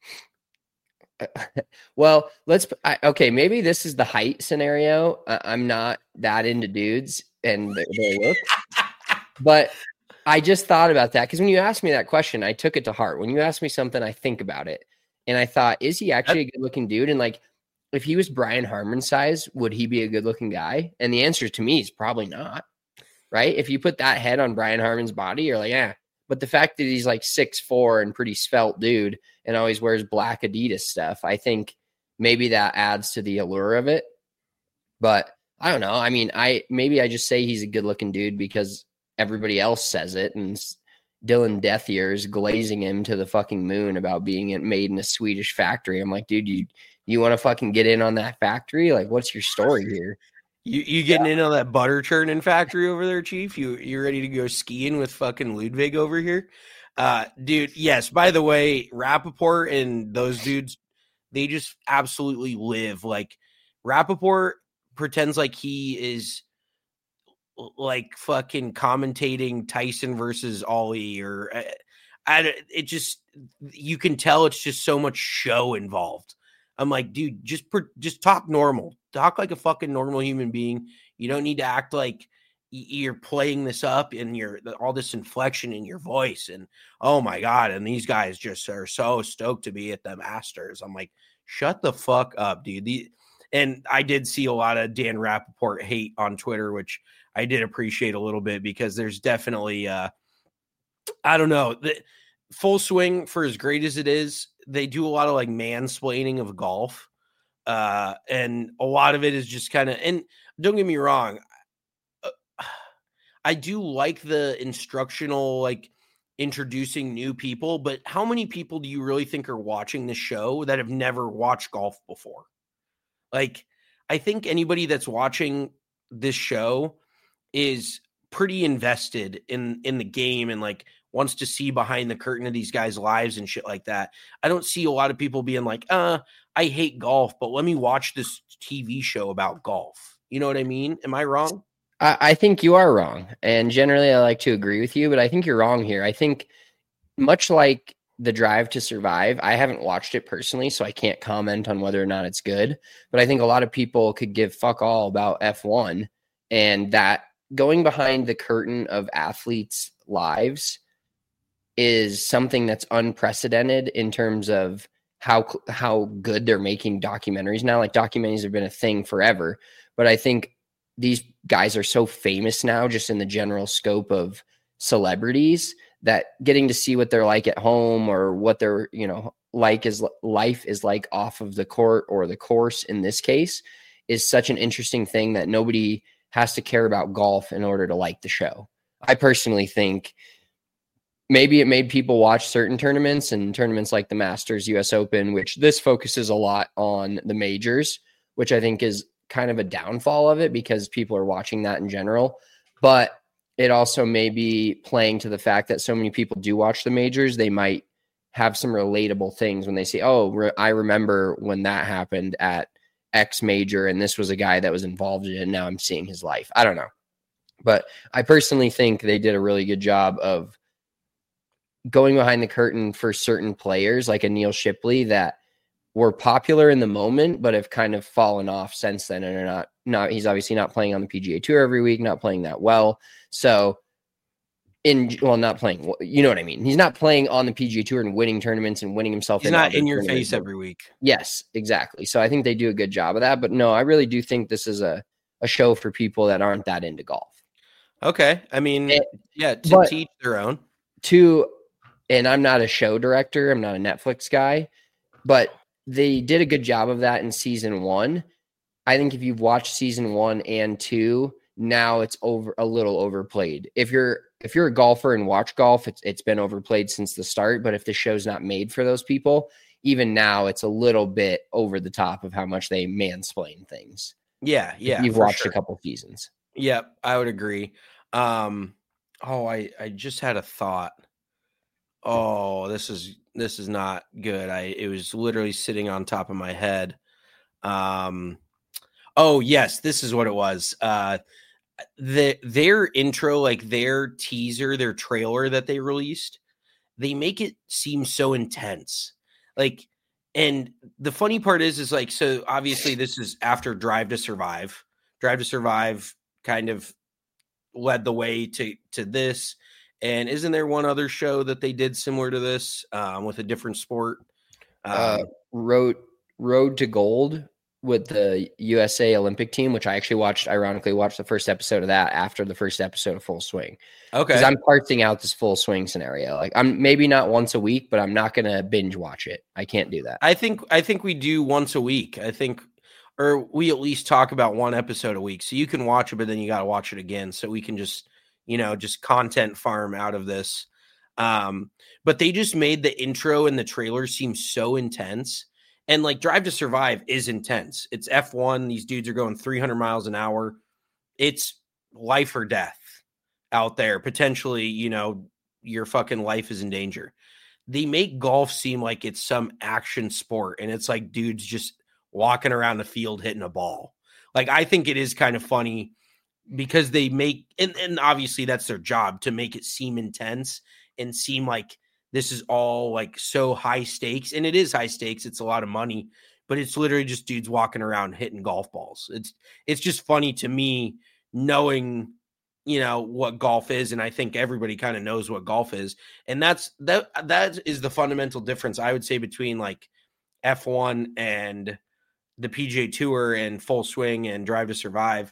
Well, let's I, okay. Maybe this is the height scenario. I, I'm not that into dudes and their, their look, but I just thought about that because when you asked me that question, I took it to heart. When you ask me something, I think about it, and I thought, is he actually a good-looking dude? And like, if he was Brian Harmon's size, would he be a good-looking guy? And the answer to me is probably not. Right? If you put that head on Brian Harmon's body, you're like, yeah. But the fact that he's like six foot four and pretty svelte dude and always wears black Adidas stuff, I think maybe that adds to the allure of it. But I don't know. I mean, I maybe I just say he's a good looking dude because everybody else says it. And Dylan Death Ears glazing him to the fucking moon about being made in a Swedish factory. I'm like, dude, you, you want to fucking get in on that factory? Like, what's your story here? You you getting yeah. in on that butter churning factory over there, Chief? You you ready to go skiing with fucking Ludwig over here? Uh, dude, yes. By the way, Rappaport and those dudes, they just absolutely live. Like, Rappaport pretends like he is like fucking commentating Tyson versus Ollie, or I, I, it just, you can tell it's just so much show involved. I'm like, dude, just just talk normal. Talk like a fucking normal human being. You don't need to act like you're playing this up and you're all this inflection in your voice. And oh my God. And these guys just are so stoked to be at the Masters. I'm like, shut the fuck up, dude. The, and I did see a lot of Dan Rappaport hate on Twitter, which I did appreciate a little bit because there's definitely, uh, I don't know, the Full Swing, for as great as it is, they do a lot of like mansplaining of golf. Uh, and a lot of it is just kind of, and don't get me wrong, uh, I do like the instructional, like introducing new people, but how many people do you really think are watching the show that have never watched golf before? Like, I think anybody that's watching this show is pretty invested in, in the game and like wants to see behind the curtain of these guys' lives and shit like that. I don't see a lot of people being like, uh, I hate golf, but let me watch this T V show about golf. You know what I mean? Am I wrong? I, I think you are wrong. And generally I like to agree with you, but I think you're wrong here. I think much like The Drive to Survive, I haven't watched it personally, so I can't comment on whether or not it's good. But I think a lot of people could give fuck all about F one, and that going behind the curtain of athletes' lives is something that's unprecedented in terms of how how good they're making documentaries now. Like, documentaries have been a thing forever, but I think these guys are so famous now just in the general scope of celebrities that getting to see what they're like at home or what they're, you know, like is life is like off of the court or the course in this case is such an interesting thing that nobody has to care about golf in order to like the show. I personally think maybe it made people watch certain tournaments and tournaments like the Masters, U S Open, which this focuses a lot on the majors, which I think is kind of a downfall of it because people are watching that in general. But it also may be playing to the fact that so many people do watch the majors. They might have some relatable things when they say, oh, re- I remember when that happened at X major and this was a guy that was involved in it. And now I'm seeing his life. I don't know. But I personally think they did a really good job of going behind the curtain for certain players like a Neil Shipley that were popular in the moment, but have kind of fallen off since then. And are not, not, he's obviously not playing on the P G A Tour every week, not playing that well. So in, well, not playing, you know what I mean? He's not playing on the P G A Tour and winning tournaments and winning himself. He's not in your face every week. Yes, exactly. So I think they do a good job of that, but no, I really do think this is a, a show for people that aren't that into golf. Okay. I mean, and, yeah, to but, teach their own. To, and I'm not a show director. I'm not a Netflix guy, but they did a good job of that in season one. I think if you've watched season one and two, now it's over a little overplayed. If you're if you're a golfer and watch golf, it's it's been overplayed since the start. But if the show's not made for those people, even now it's a little bit over the top of how much they mansplain things. Yeah, yeah. You've watched sure. a couple seasons. Yep, I would agree. Um, oh, I I just had a thought. Oh, this is this is not good. I it was literally sitting on top of my head. Um, oh yes, this is what it was. Uh, the their intro, like their teaser, their trailer that they released, they make it seem so intense. Like, and the funny part is, is like, so obviously this is after Drive to Survive. Drive to Survive kind of led the way to to this. And isn't there one other show that they did similar to this um, with a different sport? Um, uh, Road Road to Gold with the U S A Olympic team, which I actually watched, ironically watched the first episode of that after the first episode of Full Swing. okay. Because I'm parsing out this Full Swing scenario. Like, I'm maybe not once a week, but I'm not going to binge watch it. I can't do that. I think I think we do once a week. I think, or we at least talk about one episode a week. So you can watch it, but then you got to watch it again. So we can just, you know, just content farm out of this. Um, but they just made the intro and the trailer seem so intense. And like Drive to Survive is intense. It's F one. These dudes are going three hundred miles an hour. It's life or death out there. Potentially, you know, your fucking life is in danger. They make golf seem like it's some action sport. And it's like dudes just walking around the field hitting a ball. Like, I think it is kind of funny because they make, and, and obviously that's their job, to make it seem intense and seem like this is all like so high stakes. And it is high stakes. It's a lot of money, but it's literally just dudes walking around hitting golf balls. It's, it's just funny to me knowing, you know, what golf is. And I think everybody kind of knows what golf is. And that's, that, that is the fundamental difference, I would say, between like F one and the P G A Tour and Full Swing and Drive to Survive,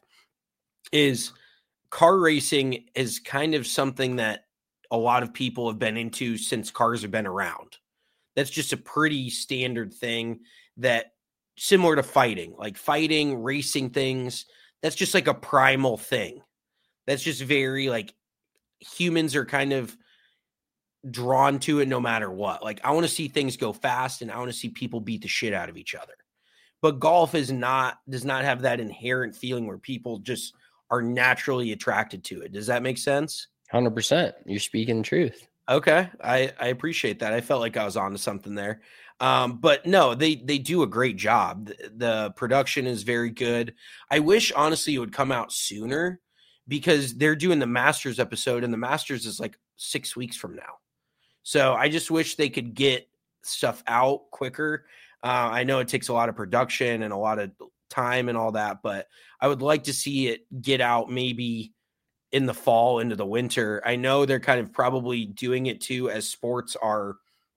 is car racing is kind of something that a lot of people have been into since cars have been around. That's just a pretty standard thing, that similar to fighting, like fighting, racing things. That's just like a primal thing. That's just very like, humans are kind of drawn to it no matter what. Like, I want to see things go fast and I want to see people beat the shit out of each other. But golf is not, does not have that inherent feeling where people just are naturally attracted to it. Does that make sense? one hundred percent. You're speaking the truth. Okay. I, I appreciate that. I felt like I was onto something there. Um, but no, they, they do a great job. The, the production is very good. I wish, honestly, it would come out sooner, because they're doing the Masters episode, and the Masters is like six weeks from now. So I just wish they could get stuff out quicker. Uh, I know it takes a lot of production and a lot of time and all that, but I would like to see it get out maybe in the fall into the winter. I know they're kind of probably doing it too, as sports are,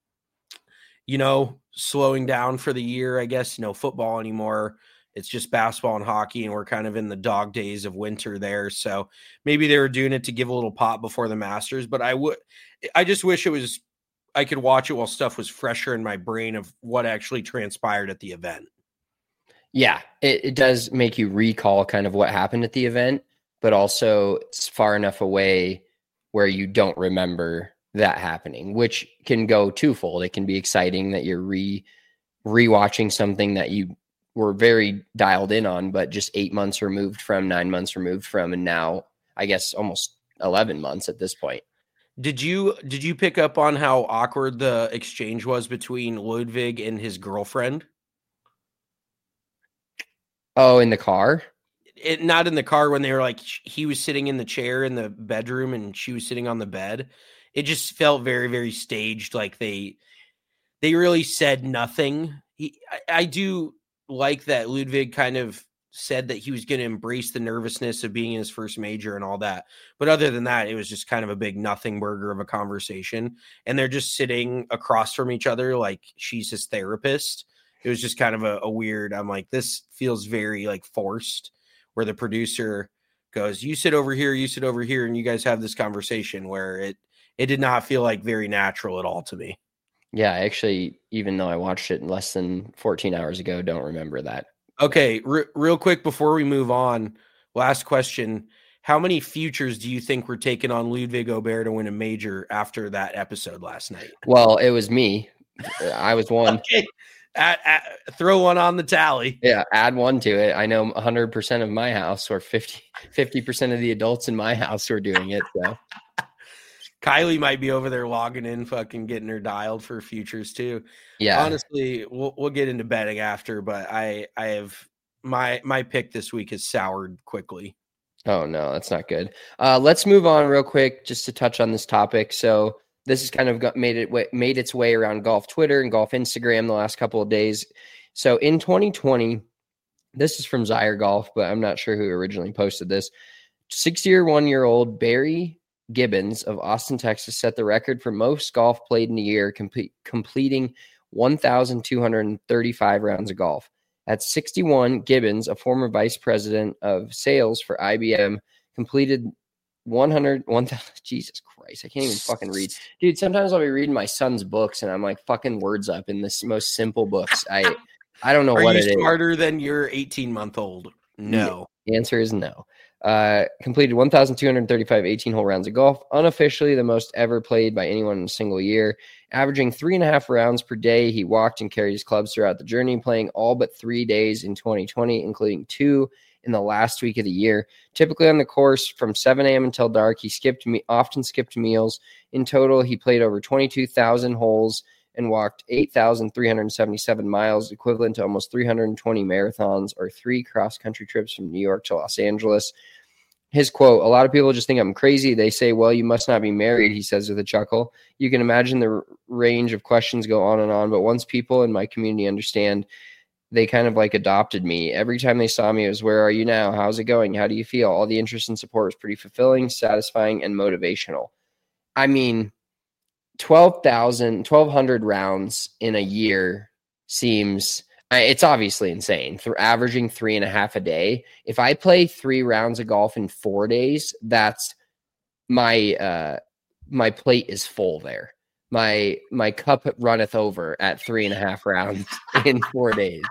you know, slowing down for the year, I guess. No football anymore. It's just basketball and hockey, and we're kind of in the dog days of winter there. So maybe they were doing it to give a little pop before the Masters, but I would, I just wish it was, I could watch it while stuff was fresher in my brain of what actually transpired at the event. Yeah, it, it does make you recall kind of what happened at the event, but also it's far enough away where you don't remember that happening, which can go twofold. It can be exciting that you're re rewatching something that you were very dialed in on, but just eight months removed from, nine months removed from, and now I guess almost eleven months at this point. Did you did you pick up on how awkward the exchange was between Ludwig and his girlfriend? Oh, in the car? It, not in the car, when they were like, he was sitting in the chair in the bedroom and she was sitting on the bed. It just felt very, very staged. Like they, they really said nothing. He, I, I do like that Ludwig kind of said that he was going to embrace the nervousness of being in his first major and all that. But other than that, it was just kind of a big nothing burger of a conversation. And they're just sitting across from each other like she's his therapist. It was just kind of a, a weird, I'm like, this feels very like forced, where the producer goes, you sit over here, you sit over here, and you guys have this conversation, where it, it did not feel like very natural at all to me. Yeah, I actually, even though I watched it less than fourteen hours ago, don't remember that. Okay, re- real quick before we move on, last question. How many futures do you think were taken on Ludwig Aubert to win a major after that episode last night? Well, it was me. I was one. Okay. At, at, throw one on the tally. Yeah, add one to it. I know one hundred percent of my house, or fifty percent of the adults in my house, were doing it. So Kylie might be over there logging in, fucking getting her dialed for futures too. Yeah, honestly, we'll we'll get into betting after, but I I have my my pick this week is soured quickly. Oh, no, that's not good. Uh, let's move on real quick just to touch on this topic. So this has kind of got, made it made its way around golf Twitter and golf Instagram the last couple of days. So in twenty twenty, this is from Zyre Golf, but I'm not sure who originally posted this. sixty-one-year-old Barry Gibbons of Austin, Texas, set the record for most golf played in a year, complete, completing one thousand two hundred thirty-five rounds of golf. At sixty-one, Gibbons, a former vice president of sales for I B M, completed one hundred, one thousand, Jesus Christ, I can't even fucking read. Dude, sometimes I'll be reading my son's books and I'm like fucking words up in this most simple books. I I don't know Are what you it is. smarter than your eighteen-month-old? No. The answer is no. Uh, completed one thousand two hundred thirty-five eighteen-hole rounds of golf, unofficially the most ever played by anyone in a single year. Averaging three and a half rounds per day, he walked and carried his clubs throughout the journey, playing all but three days in twenty twenty, including two in the last week of the year. Typically on the course from seven a.m. until dark, he skipped me often skipped meals. In total, he played over twenty-two thousand holes and walked eight thousand three hundred seventy-seven miles, equivalent to almost three hundred twenty marathons or three cross-country trips from New York to Los Angeles. His quote, "A lot of people just think I'm crazy. They say, well, you must not be married," he says with a chuckle. You can imagine the r- range of questions go on and on, but once people in my community understand, they kind of like adopted me. Every time they saw me, it was, where are you now? How's it going? How do you feel? All the interest and support was pretty fulfilling, satisfying, and motivational. I mean, twelve thousand, twelve hundred rounds in a year seems... It's obviously insane. For averaging three and a half a day. If I play three rounds of golf in four days, that's my uh, my plate is full there. My my cup runneth over at three and a half rounds in four days.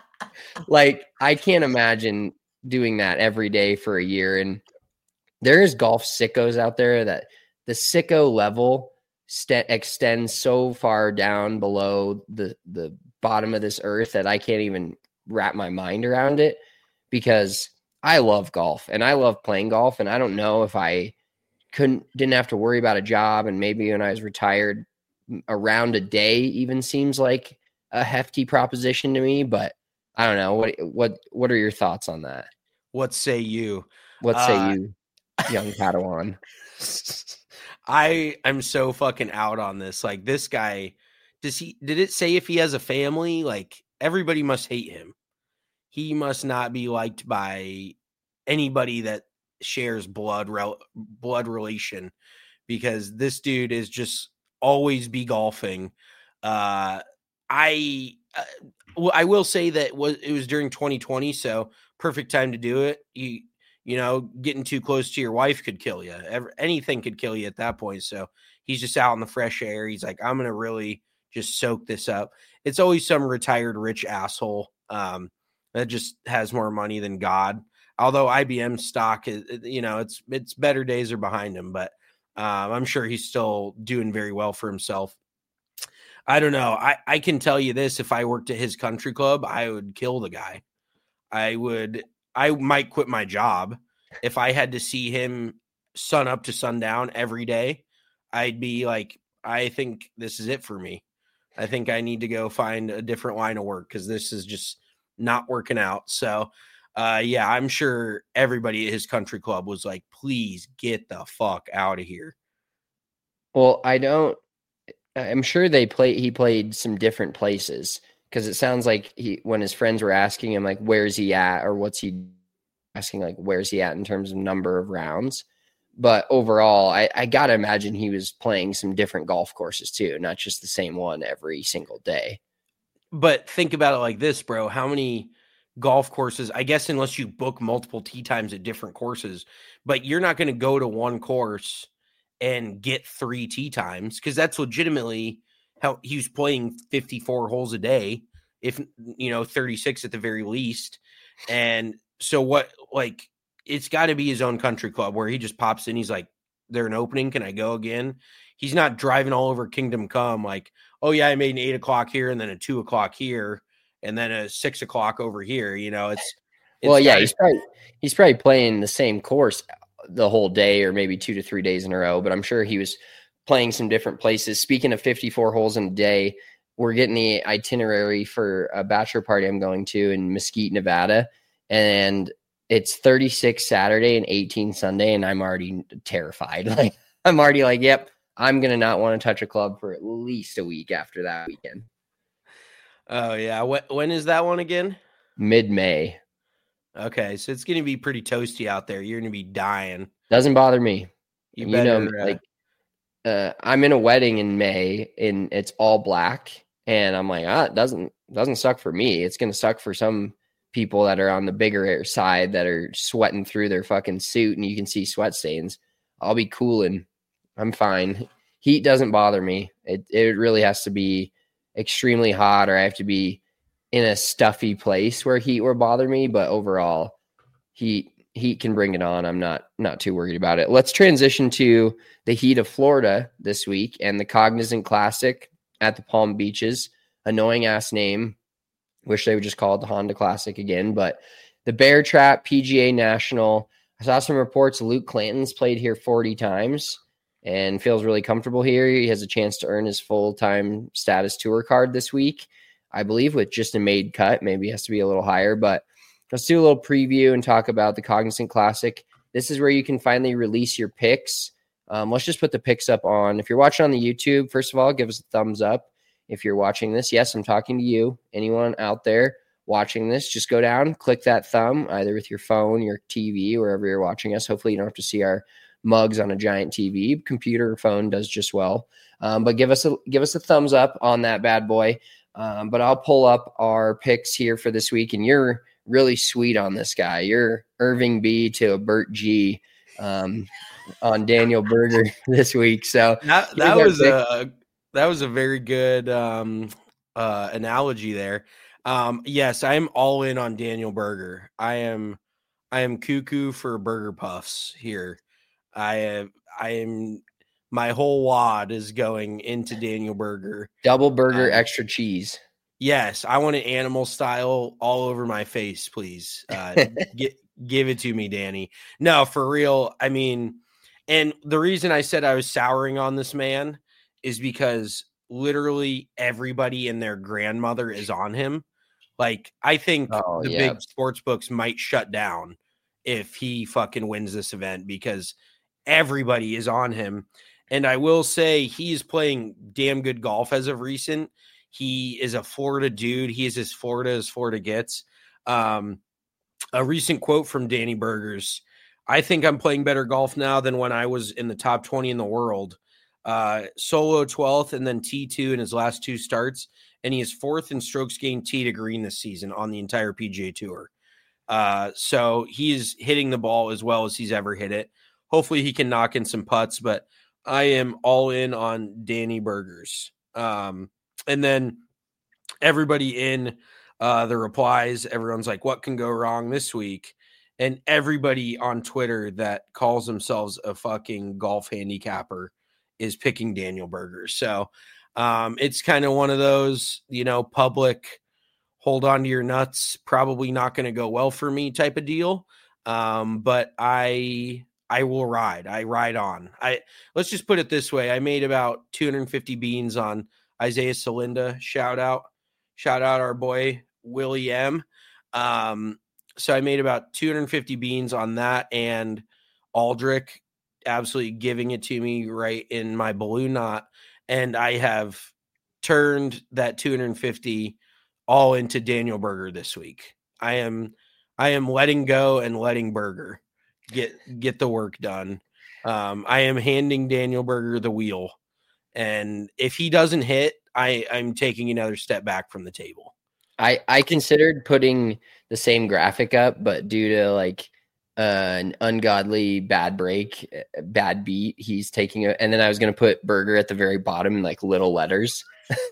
Like, I can't imagine doing that every day for a year. And there's golf sickos out there that the sicko level st- extends so far down below the the bottom of this earth that I can't even wrap my mind around it, because I love golf and I love playing golf. And I don't know if I couldn't, didn't have to worry about a job. And maybe when I was retired, a round a day even seems like a hefty proposition to me, but I don't know. What, what, what are your thoughts on that? What say you? What say uh, you, young Padawan? I am so fucking out on this. Like, this guy, Does he, did it say if he has a family? Like, everybody must hate him. He must not be liked by anybody that shares blood, rel, blood relation, because this dude is just always be golfing. Uh, I, uh, well, I will say that was, it was during twenty twenty. So perfect time to do it. You, you know, getting too close to your wife could kill you. Ever, anything could kill you at that point. So he's just out in the fresh air. He's like, I'm going to really just soak this up. It's always some retired rich asshole um, that just has more money than God. Although I B M stock is, you know, it's it's better days are behind him, but um, I'm sure he's still doing very well for himself. I don't know. I, I can tell you this: if I worked at his country club, I would kill the guy. I would. I might quit my job if I had to see him sun up to sundown every day. I'd be like, I think this is it for me. I think I need to go find a different line of work because this is just not working out. So, uh, yeah, I'm sure everybody at his country club was like, please get the fuck out of here. Well, I don't, I'm sure they play, he played some different places, because it sounds like he, when his friends were asking him, like, where's he at, or what's he asking, like, where's he at in terms of number of rounds. But overall, I, I got to imagine he was playing some different golf courses too, not just the same one every single day. But think about it like this, bro. How many golf courses, I guess, unless you book multiple tee times at different courses, but you're not going to go to one course and get three tee times, because that's legitimately how he was playing fifty-four holes a day, if, you know, thirty-six at the very least. And so what, like, it's got to be his own country club where he just pops in. He's like, they're an opening. Can I go again? He's not driving all over Kingdom Come like, oh yeah, I made an eight o'clock here and then a two o'clock here and then a six o'clock over here. You know, it's, it's well, yeah, gotta, he's probably, he's probably playing the same course the whole day, or maybe two to three days in a row, but I'm sure he was playing some different places. Speaking of fifty-four holes in a day, we're getting the itinerary for a bachelor party I'm going to in Mesquite, Nevada. And it's thirty-six Saturday and eighteen Sunday, and I'm already terrified. Like I'm already like, yep, I'm gonna not want to touch a club for at least a week after that weekend. Oh yeah, when, when is that one again? Mid-May. Okay, so it's gonna be pretty toasty out there. You're gonna be dying. Doesn't bother me. You, you better, know, uh, like uh, I'm in a wedding in May, and it's all black, and I'm like, ah, it doesn't doesn't suck for me. It's gonna suck for some people that are on the bigger side that are sweating through their fucking suit, and you can see sweat stains. I'll be cooling. I'm fine. Heat doesn't bother me. It it really has to be extremely hot, or I have to be in a stuffy place where heat will bother me. But overall, heat heat can bring it on. I'm not not too worried about it. Let's transition to the heat of Florida this week and the Cognizant Classic at the Palm Beaches. Annoying ass name. Wish they would just call it the Honda Classic again. But the Bear Trap P G A National. I saw some reports Luke Clanton's played here forty times and feels really comfortable here. He has a chance to earn his full-time status tour card this week, I believe, with just a made cut. Maybe it has to be a little higher, but let's do a little preview and talk about the Cognizant Classic. This is where you can finally release your picks. Um, let's just put the picks up on. If you're watching on the YouTube, first of all, give us a thumbs up. If you're watching this, yes, I'm talking to you. Anyone out there watching this, just go down, click that thumb, either with your phone, your T V, wherever you're watching us. Hopefully you don't have to see our mugs on a giant T V. Computer or phone does just well. Um, but give us a give us a thumbs up on that bad boy. Um, but I'll pull up our picks here for this week, and you're really sweet on this guy. You're Irving B to a Bert G um, on Daniel Berger this week. So that, that was a that was a very good um, uh, analogy there. Um, yes, I am all in on Daniel Berger. I am I am cuckoo for Burger Puffs here. I am I am my whole wad is going into Daniel Berger. Double burger, um, extra cheese. Yes, I want an animal style all over my face, please. Uh, get, give it to me, Danny. No, for real. I mean, and the reason I said I was souring on this man is because literally everybody and their grandmother is on him. Like, I think oh, the yeah. big sports books might shut down if he fucking wins this event because everybody is on him. And I will say he is playing damn good golf as of recent. He is a Florida dude. He is as Florida as Florida gets. Um, a recent quote from Danny Berger's, I think I'm playing better golf now than when I was in the top twenty in the world. Uh, solo twelfth and then T two in his last two starts. And he is fourth in strokes gained tee to green this season on the entire P G A Tour. Uh, so he's hitting the ball as well as he's ever hit it. Hopefully he can knock in some putts, but I am all in on Danny Berger's. Um, and then everybody in uh, the replies, everyone's like, what can go wrong this week? And everybody on Twitter that calls themselves a fucking golf handicapper is picking Daniel Berger. So um, it's kind of one of those, you know, public hold on to your nuts, probably not going to go well for me type of deal. Um, but I, I will ride. I ride on. I let's just put it this way. I made about two hundred fifty beans on Isaiah Salinda. Shout out, shout out our boy Willie M. Um, so I made about two hundred fifty beans on that, and Aldrich absolutely giving it to me right in my balloon knot. And I have turned that two hundred fifty all into Daniel Berger this week. I am, I am letting go and letting Berger get, get the work done. Um, I am handing Daniel Berger the wheel. And if he doesn't hit, I, I'm taking another step back from the table. I, I considered putting the same graphic up, but due to like uh, an ungodly bad break, bad beat, he's taking it. And then I was going to put Berger at the very bottom in like little letters.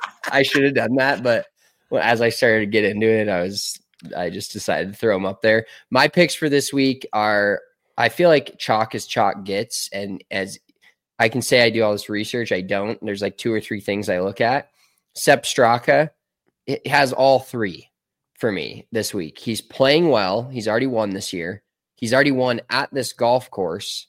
I should have done that. But well, as I started to get into it, I was, I just decided to throw him up there. My picks for this week are, I feel like chalk as chalk gets. And as I can say I do all this research, I don't. There's like two or three things I look at. Sepp Straka, it has all three for me this week. He's playing well. He's already won this year. He's already won at this golf course.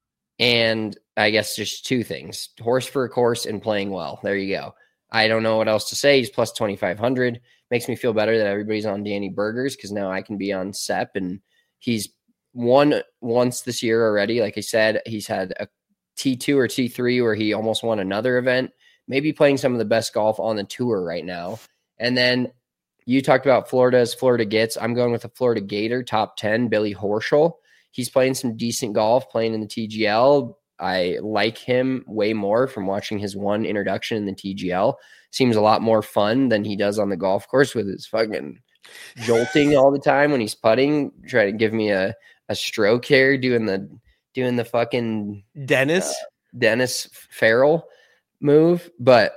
And I guess just two things, horse for a course and playing well. There you go. I don't know what else to say. He's plus twenty-five hundred. Makes me feel better that everybody's on Danny Berger's because now I can be on Sepp, and he's won once this year already. Like I said, he's had a T two or T three where he almost won another event, maybe playing some of the best golf on the tour right now. And then you talked about Florida as Florida gets. I'm going with a Florida Gator, top ten, Billy Horschel. He's playing some decent golf, playing in the T G L. I like him way more from watching his one introduction in the T G L. Seems a lot more fun than he does on the golf course with his fucking jolting all the time when he's putting, trying to give me a, a stroke here, doing the doing the fucking Dennis uh, Dennis Farrell move. But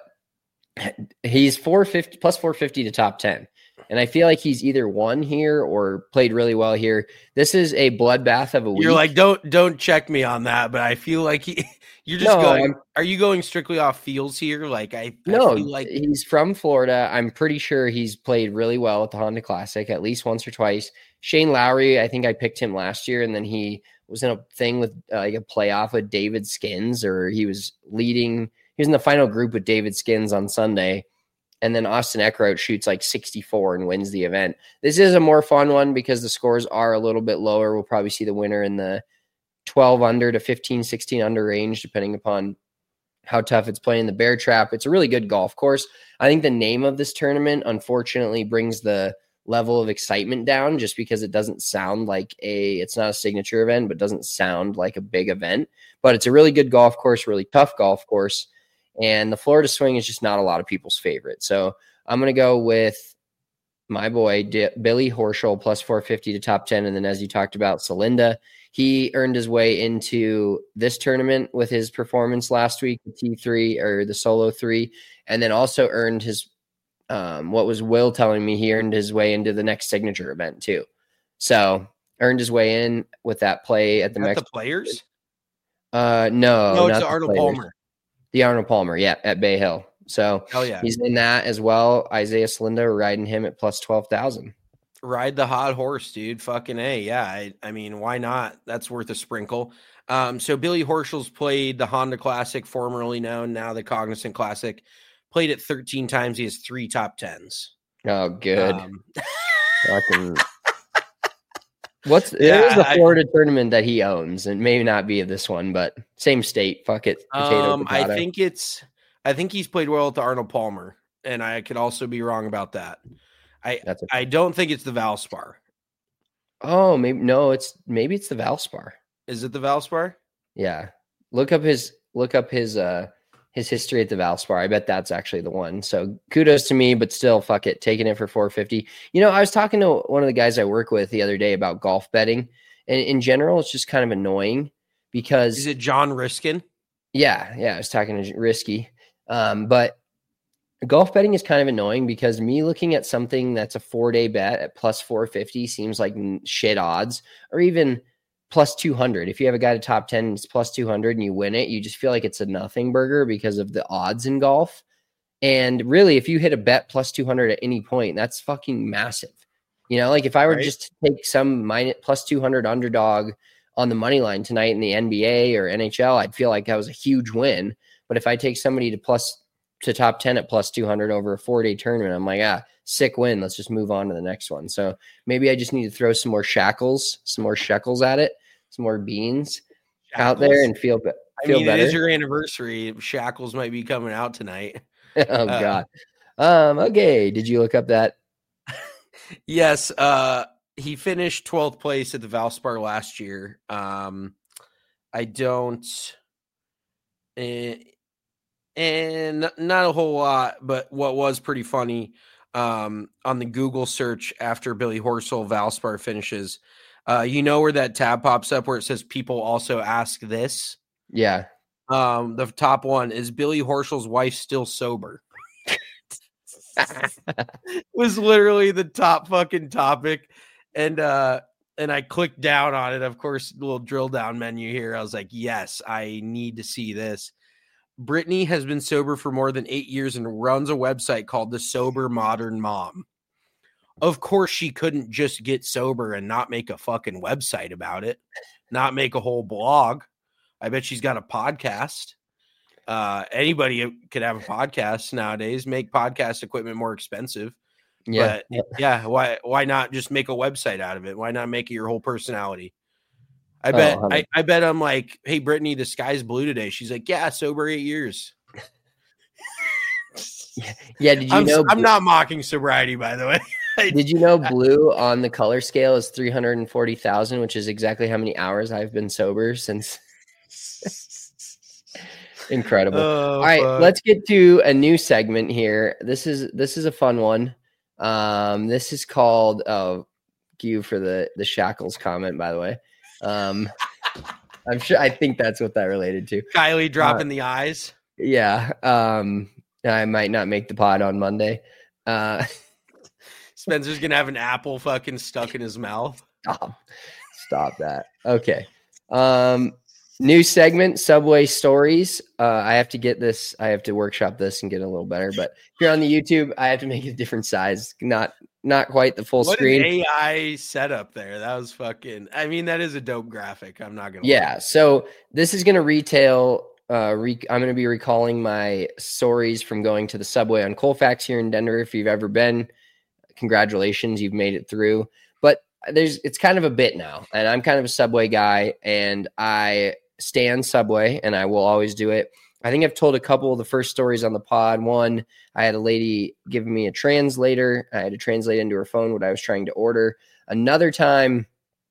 he's four fifty plus four fifty to top ten. And I feel like he's either won here or played really well here. This is a bloodbath of a week. You're like, don't don't check me on that, but I feel like he, you're just no, going. I'm, are you going strictly off feels here? Like I, no, I feel like he's from Florida. I'm pretty sure he's played really well at the Honda Classic at least once or twice. Shane Lowry, I think I picked him last year, and then he was in a thing with uh, like a playoff with David Skins, or he was leading. He was in the final group with David Skins on Sunday. And then Austin Eckroat shoots like sixty-four and wins the event. This is a more fun one because the scores are a little bit lower. We'll probably see the winner in the twelve under to fifteen, sixteen under range, depending upon how tough it's playing the Bear Trap. It's a really good golf course. I think the name of this tournament, unfortunately, brings the level of excitement down just because it doesn't sound like a, it's not a signature event, but doesn't sound like a big event. But it's a really good golf course, really tough golf course. And the Florida swing is just not a lot of people's favorite. So I'm going to go with my boy, D- Billy Horschel, plus four fifty to top ten. And then as you talked about, Celinda, he earned his way into this tournament with his performance last week, the T three or the solo three, and then also earned his, um, what was Will telling me, he earned his way into the next signature event too. So earned his way in with that play at the Not next the players. Uh, no, No, it's not Arnold players. Palmer. The Arnold Palmer, yeah, at Bay Hill. So Hell yeah. he's in that as well. Isaiah Celinda riding him at plus twelve thousand. Ride the hot horse, dude. Fucking A. Yeah. I, I mean, why not? That's worth a sprinkle. Um, so Billy Horschel's played the Honda Classic, formerly known, now the Cognizant Classic. Played it thirteen times. He has three top tens. Oh, good. Um, Fucking. What's Yeah, there's a I- Florida tournament that he owns, and maybe not be of this one, but same state. Fuck it. Potato, um, I potato. think it's, I think he's played well at the Arnold Palmer, and I could also be wrong about that. I, That's a, I don't think it's the Valspar. oh, maybe no. It's maybe it's the Valspar. Is it the Valspar? Yeah, look up his look up his uh his history at the Valspar. I bet that's actually the one. So kudos to me, but still, fuck it, taking it for four fifty. You know, I was talking to one of the guys I work with the other day about golf betting, and in general, it's just kind of annoying because Is it John Riskin? yeah, yeah, I was talking to Risky, um, but golf betting is kind of annoying because me looking at something that's a four day bet at plus four fifty seems like shit odds, or even plus two hundred. If you have a guy to top ten, it's plus two hundred and you win it, you just feel like it's a nothing burger because of the odds in golf. And really, if you hit a bet plus two hundred at any point, that's fucking massive. You know, like if I were Right. just to take some minus plus two hundred underdog on the money line tonight in the N B A or N H L, I'd feel like that was a huge win. But if I take somebody to plus to top ten at plus two hundred over a four day tournament, I'm like, ah, sick win. Let's just move on to the next one. So maybe I just need to throw some more shackles, some more shekels at it, some more beans out there Shackles? and feel, be- I feel mean, better. it is your anniversary. Shackles might be coming out tonight. oh, uh, God. Um, okay. Did you look up that? Yes, uh, he finished twelfth place at the Valspar last year. Um, I don't, and, and not a whole lot, but what was pretty funny um, on the Google search after Billy Horschel Valspar finishes, uh, you know where that tab pops up where it says people also ask this? Yeah. Um, the top one is Billy Horschel's wife still sober. Was literally the top fucking topic. And uh and I clicked down on it. Of course, the little drill down menu here. I was like, yes, I need to see this. Brittany has been sober for more than eight years and runs a website called The Sober Modern Mom. Of course, she couldn't just get sober and not make a fucking website about it, not make a whole blog. I bet she's got a podcast. Uh, anybody could have a podcast nowadays, make podcast equipment more expensive. Yeah. But yeah, why why not just make a website out of it? Why not make it your whole personality? I bet Oh, I, I bet I'm like, hey Brittany, the sky's blue today. She's like, yeah, sober eight years. Yeah, did you I'm, know? I'm not mocking sobriety, by the way. Did you know blue on the color scale is three hundred forty thousand, which is exactly how many hours I've been sober since. Incredible. Oh, All right, fuck. let's get to a new segment here. This is this is a fun one. Um, this is called oh, you for the the shackles comment, by the way. Um, I'm sure I think that's what that related to. Kylie dropping Uh, the eyes. Yeah. Um, I might not make the pod on Monday. Uh, Spencer's gonna have an apple fucking stuck in his mouth. stop. Stop that. Okay. Um, new segment, Subway Stories. Uh, I have to get this. I have to workshop this and get a little better. But here on the YouTube, I have to make it a different size. Not not quite the full What screen. an A I setup there. That was fucking. I mean, that is a dope graphic. I'm not gonna. Yeah. lie. So this is going to retail. Uh, re- I'm going to be recalling my stories from going to the Subway on Colfax here in Denver. If you've ever been, congratulations, you've made it through. But there's it's kind of a bit now, and I'm kind of a Subway guy, and I stand Subway, and I will always do it. I think I've told a couple of the first stories on the pod. One, I had a lady giving me a translator. I had to translate into her phone what I was trying to order. Another time,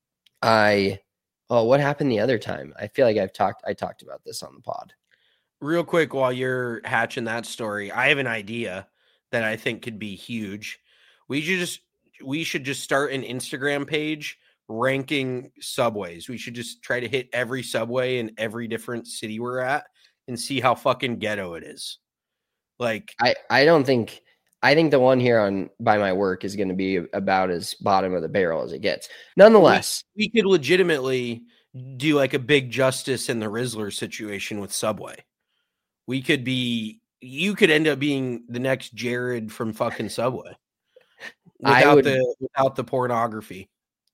I oh, what happened the other time? I feel like I've talked I talked about this on the pod. Real quick, while you're hatching that story, I have an idea that I think could be huge. We should just we should just start an Instagram page ranking subways. We should just try to hit every subway in every different city we're at and see how fucking ghetto it is. Like, I, I don't think I think the one here on by my work is going to be about as bottom of the barrel as it gets. Nonetheless, we, we could legitimately do like a big Justice and the Rizzler situation with Subway. We could be you could end up being the next Jared from fucking Subway. Without would- the without the pornography.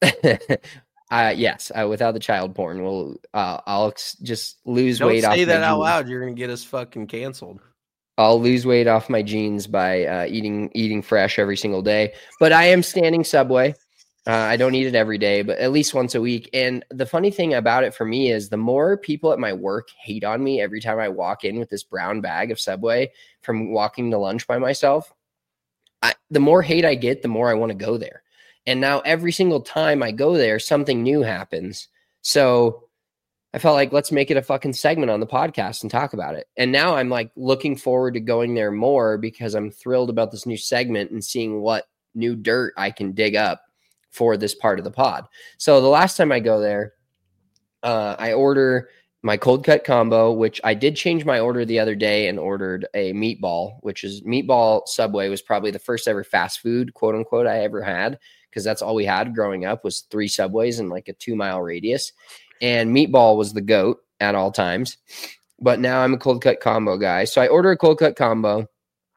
uh, yes, uh, without the child porn, we'll uh, I'll ex- just lose Don't weight off. say that my out jeans. loud. You're gonna get us fucking canceled. I'll lose weight off my jeans by uh, eating eating fresh every single day. But I am standing Subway. Uh, I don't eat it every day, but at least once a week. And the funny thing about it for me is the more people at my work hate on me every time I walk in with this brown bag of Subway from walking to lunch by myself, I, the more hate I get, the more I want to go there. And now every single time I go there, something new happens. So I felt like let's make it a fucking segment on the podcast and talk about it. And now I'm like looking forward to going there more because I'm thrilled about this new segment and seeing what new dirt I can dig up for this part of the pod. So the last time I go there, uh, I order my cold cut combo, which I did change my order the other day and ordered a meatball, which is meatball Subway was probably the first ever fast food, quote unquote, I ever had. Because that's all we had growing up was three Subways in like a two mile radius. And meatball was the GOAT at all times. But now I'm a cold cut combo guy. So I order a cold cut combo,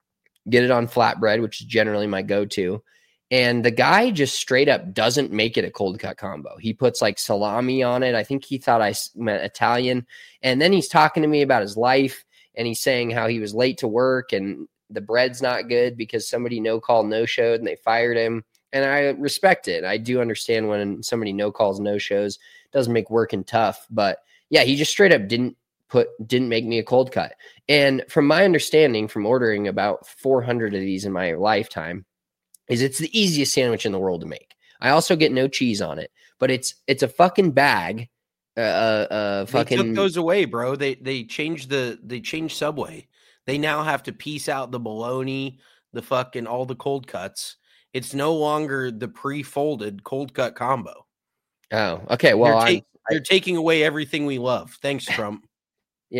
get it on flatbread, which is generally my go-to. And the guy just straight up doesn't make it a cold cut combo. He puts like salami on it. I think he thought I meant Italian. And then he's talking to me about his life. And he's saying how he was late to work and the bread's not good because somebody no call, no showed and they fired him. And I respect it. I do understand when somebody no calls, no shows, doesn't make working tough. But yeah, he just straight up didn't put, didn't make me a cold cut. And from my understanding from ordering about four hundred of these in my lifetime is it's the easiest sandwich in the world to make. I also get no cheese on it, but it's, it's a fucking bag. Uh, uh, fucking They took those away, bro. They, they changed the, they changed Subway. They now have to piece out the bologna, the fucking, all the cold cuts. It's no longer the pre-folded cold cut combo. Oh, okay. Well, you're, I'm, ta- you're taking away everything we love. Thanks, Trump. Yeah.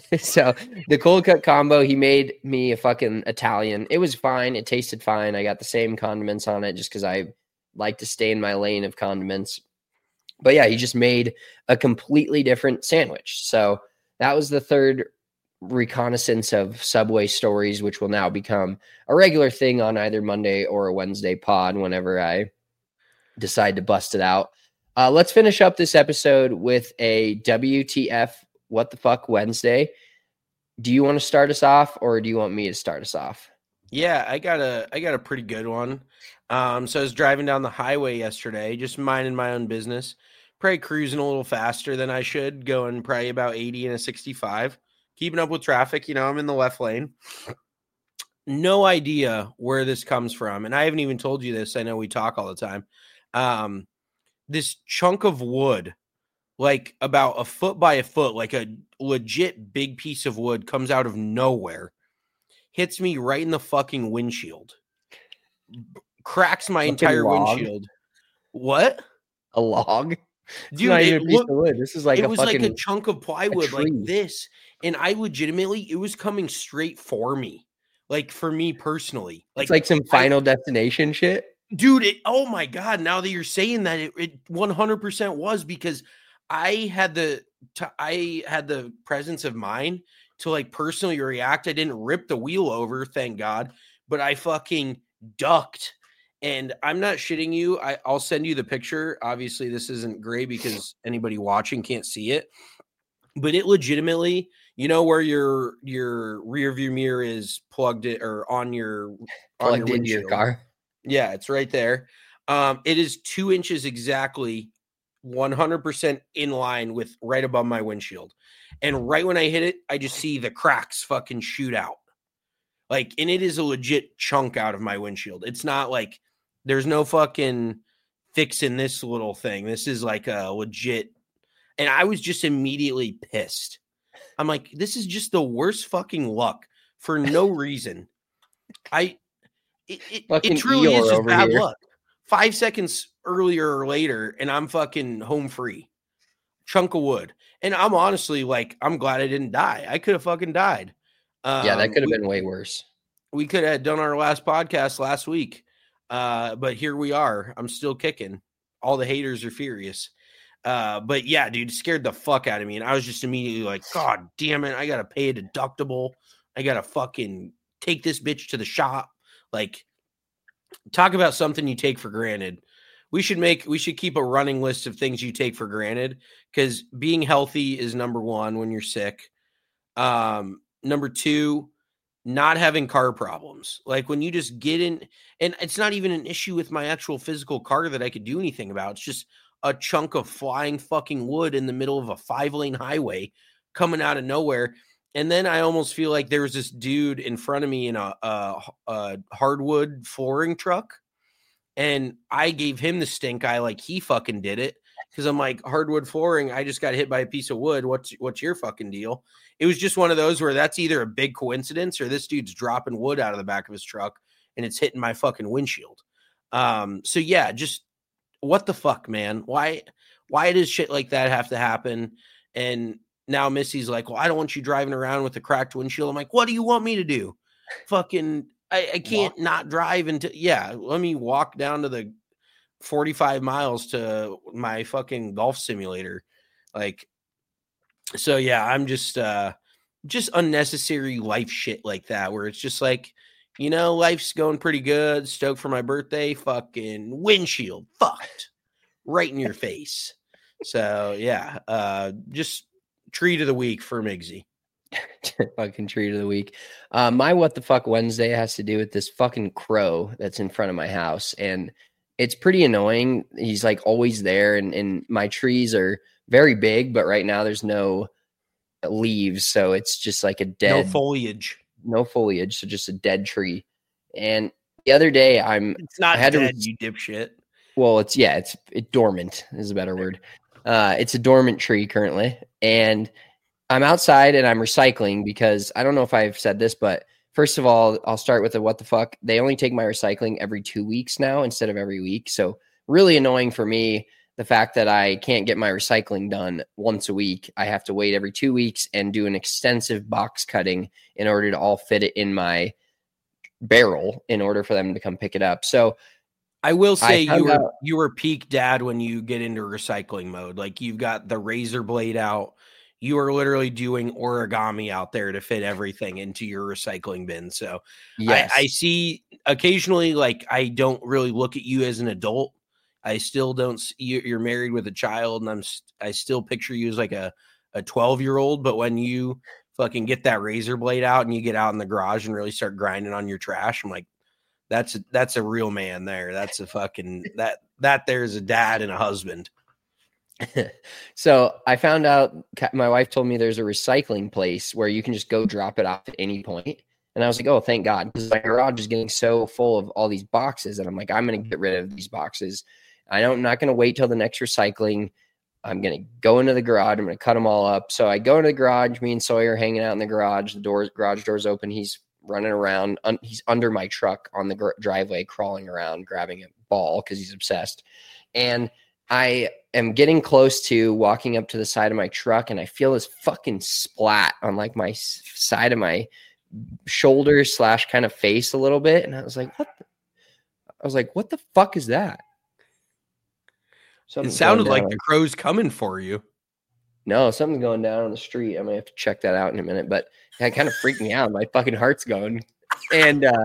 So the cold cut combo, he made me a fucking Italian. It was fine. It tasted fine. I got the same condiments on it just because I like to stay in my lane of condiments. But yeah, he just made a completely different sandwich. So that was the third reconnaissance of Subway stories, which will now become a regular thing on either Monday or a Wednesday pod whenever I decide to bust it out. Uh, let's finish up this episode with a W T F What the Fuck Wednesday. Do you want to start us off or do you want me to start us off? Yeah, I got a I got a pretty good one. Um, so I was driving down the highway yesterday, just minding my own business. probably cruising a little faster than I should, going probably about eighty and a sixty-five, keeping up with traffic. You know, I'm in the left lane. No idea where this comes from. And I haven't even told you this. I know we talk all the time. Um, this chunk of wood, like about a foot by a foot, like a legit big piece of wood, comes out of nowhere, hits me right in the fucking windshield, cracks my Fucking entire log. windshield. What? A log? It's Dude, not it even a piece looked- of wood. This is like it a was fucking like a chunk of plywood like tree. this. And I legitimately, it was coming straight for me. Like for me personally. it's like some I- Final Destination shit. Dude, it, oh my God, now that you're saying that, it, it one hundred percent was, because I had the t- I had the presence of mind to like personally react. I didn't rip the wheel over, thank God, but I fucking ducked. And I'm not shitting you. I, I'll send you the picture. Obviously, this isn't great because anybody watching can't see it, but it legitimately, you know, where your your rear view mirror is plugged it or on your on Plugged into your windshield. car. Yeah, it's right there. Um, it is two inches exactly, one hundred percent in line with right above my windshield. And right when I hit it, I just see the cracks fucking shoot out. Like, and it is a legit chunk out of my windshield. It's not like there's no fucking fixing this little thing. This is like a legit. And I was just immediately pissed. I'm like, this is just the worst fucking luck for no reason. I. It, it, Fucking it truly is Eeyore just over bad here. luck. Five seconds earlier or later, and I'm fucking home free. Chunk of wood. And I'm honestly like, I'm glad I didn't die. I could have fucking died. Um, Yeah, that could have we, been way worse. We could have done our last podcast last week. Uh, but here we are. I'm still kicking. All the haters are furious. Uh, but yeah, dude, it scared the fuck out of me. And I was just immediately like, God damn it. I got to pay a deductible. I got to fucking take this bitch to the shop. Like, talk about something you take for granted. We should make, we should keep a running list of things you take for granted, because being healthy is number one when you're sick. Um, number two, not having car problems. Like when you just get in, and it's not even an issue with my actual physical car that I could do anything about. It's just a chunk of flying fucking wood in the middle of a five lane highway coming out of nowhere. And then I almost feel like there was this dude in front of me in a, a, a hardwood flooring truck. And I gave him the stink eye like he fucking did it. Because I'm like, hardwood flooring, I just got hit by a piece of wood. What's what's your fucking deal? It was just one of those where that's either a big coincidence or this dude's dropping wood out of the back of his truck and it's hitting my fucking windshield. Um, so yeah, just what the fuck, man? Why why does shit like that have to happen? And now Missy's like, well, I don't want you driving around with a cracked windshield. I'm like, what do you want me to do? Fucking, I, I can't walk. Not drive until, yeah, let me walk down to the forty-five miles to my fucking golf simulator. Like, so yeah, I'm just, uh, just unnecessary life shit like that, where it's just like, you know, life's going pretty good. Stoked for my birthday. Fucking windshield fucked right in your face. So yeah, uh, just treat of the week for Migsy. Fucking treat of the week. Uh, my what the fuck Wednesday has to do with this fucking crow that's in front of my house, and it's pretty annoying. He's like always there, and, and my trees are very big, but right now there's no leaves, so it's just like a dead, no foliage, no foliage, so just a dead tree. And the other day, I'm it's not I had dead, to, you dipshit. Well, it's yeah, it's it, dormant is a better word. Uh, it's a dormant tree currently, and I'm outside and I'm recycling because I don't know if I've said this, but first of all, I'll start with a what the fuck. They only take my recycling every two weeks now instead of every week. So really annoying for me, the fact that I can't get my recycling done once a week. I have to wait every two weeks and do an extensive box cutting in order to all fit it in my barrel in order for them to come pick it up. So I will say I you were out, you were peak dad when you get into recycling mode. Like you've got the razor blade out. You are literally doing origami out there to fit everything into your recycling bin. So yes. I, I see occasionally, like, I don't really look at you as an adult. I still don't see you're married with a child, and I'm, I still picture you as like a, a twelve year old. But when you fucking get that razor blade out and you get out in the garage and really start grinding on your trash, I'm like, that's, a, that's a real man there. That's a fucking, that, that there's a dad and a husband. So I found out, my wife told me there's a recycling place where you can just go drop it off at any point. And I was like, oh, thank God. Because my garage is getting so full of all these boxes. And I'm like, I'm going to get rid of these boxes. I don't, I'm not going to wait till the next recycling. I'm going to go into the garage. I'm going to cut them all up. So I go into the garage. Me and Sawyer hanging out in the garage. The doors, garage doors open. He's running around. Un, he's under my truck on the gr- driveway, crawling around, grabbing a ball because he's obsessed. And I am getting close to walking up to the side of my truck, and I feel this fucking splat on like my s- side of my shoulder slash kind of face a little bit. And I was like, what? The? I was like, what the fuck is that? Something's it sounded like the crow's coming for you. No, something's going down on the street. I'm gonna have to check that out in a minute, but that kind of freaked me out. My fucking heart's going. And uh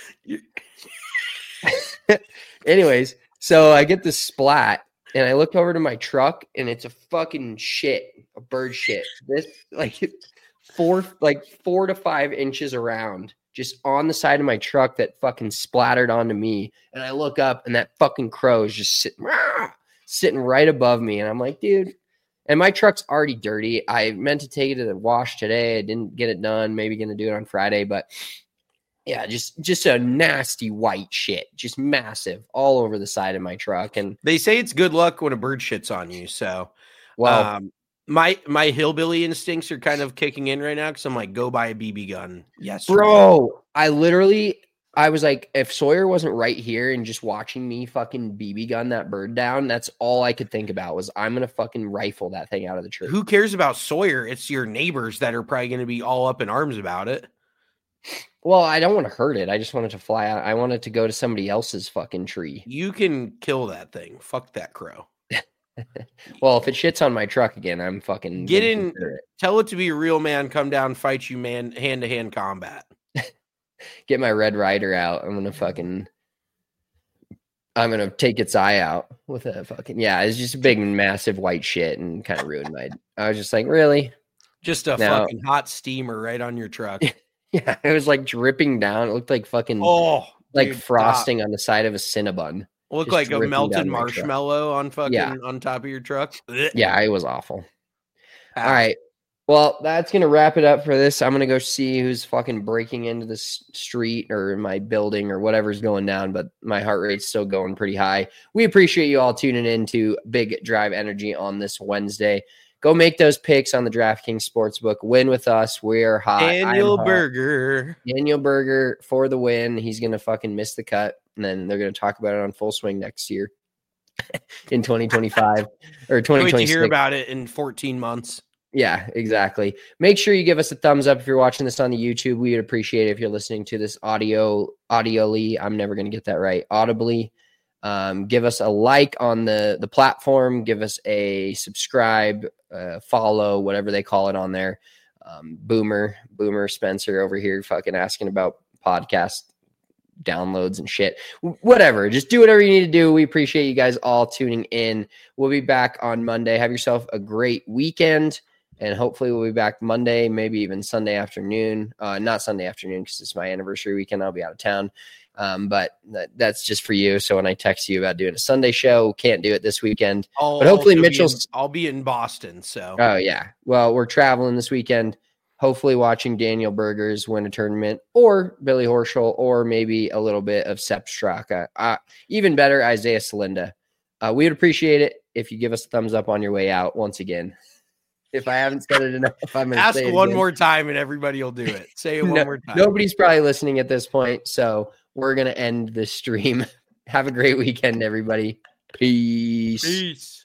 anyways, so I get this splat and I look over to my truck and it's a fucking shit, a bird shit. This like four like four to five inches around, just on the side of my truck that fucking splattered onto me. And I look up and that fucking crow is just sitting sitting right above me. And I'm like, dude. And my truck's already dirty. I meant to take it to the wash today. I didn't get it done. Maybe going to do it on Friday. But yeah, just just a nasty white shit. Just massive all over the side of my truck. And they say it's good luck when a bird shits on you. So, well, um, my my hillbilly instincts are kind of kicking in right now because I'm like, go buy a B B gun. Yes, bro. I literally... I was like, if Sawyer wasn't right here and just watching me fucking B B gun that bird down, that's all I could think about was I'm going to fucking rifle that thing out of the tree. Who cares about Sawyer? It's your neighbors that are probably going to be all up in arms about it. Well, I don't want to hurt it. I just want it to fly out. I want it to go to somebody else's fucking tree. You can kill that thing. Fuck that crow. Well, if it shits on my truck again, I'm fucking... Get in, it. Tell it to be a real man, come down, fight you, man, hand-to-hand combat. Get my Red Ryder out. I'm gonna fucking I'm gonna take its eye out with a fucking yeah, it's just a big massive white shit and kind of ruined my I was just like, really? Just a now, fucking hot steamer right on your truck. Yeah, it was like dripping down. It looked like fucking oh like dude, frosting stop. on the side of a Cinnabon. Look like a melted marshmallow on fucking yeah. on top of your truck. Yeah, it was awful. Ow. All right. Well, that's going to wrap it up for this. I'm going to go see who's fucking breaking into the street or my building or whatever's going down, but my heart rate's still going pretty high. We appreciate you all tuning in to Big Drive Energy on this Wednesday. Go make those picks on the DraftKings Sportsbook. Win with us. We're hot. Daniel Berger. Daniel Berger for the win. He's going to fucking miss the cut, and then they're going to talk about it on Full Swing next year in twenty twenty-five or twenty twenty-six. Wait to hear about it in fourteen months. Yeah, exactly. Make sure you give us a thumbs up if you're watching this on the YouTube. We would appreciate it if you're listening to this audio, audioly. I'm never going to get that right. Audibly. Um, give us a like on the, the platform. Give us a subscribe, uh, follow, whatever they call it on there. Um, Boomer, Boomer Spencer over here fucking asking about podcast downloads and shit. Whatever. Just do whatever you need to do. We appreciate you guys all tuning in. We'll be back on Monday. Have yourself a great weekend. And hopefully we'll be back Monday, maybe even Sunday afternoon. Uh, not Sunday afternoon because it's my anniversary weekend. I'll be out of town. Um, but that, that's just for you. So when I text you about doing a Sunday show, can't do it this weekend. I'll but hopefully Mitchell's... In, I'll be in Boston. So. Oh, yeah. Well, we're traveling this weekend. Hopefully watching Daniel Berger's win a tournament or Billy Horschel or maybe a little bit of Sepp Straka. Uh, even better, Isaiah Salinda. Uh, we would appreciate it if you give us a thumbs up on your way out once again. If I haven't said it enough, I'm going to ask say it one again. more time and everybody will do it. Say it one no, more time. Nobody's probably listening at this point, so we're going to end this stream. Have a great weekend, everybody. Peace. Peace.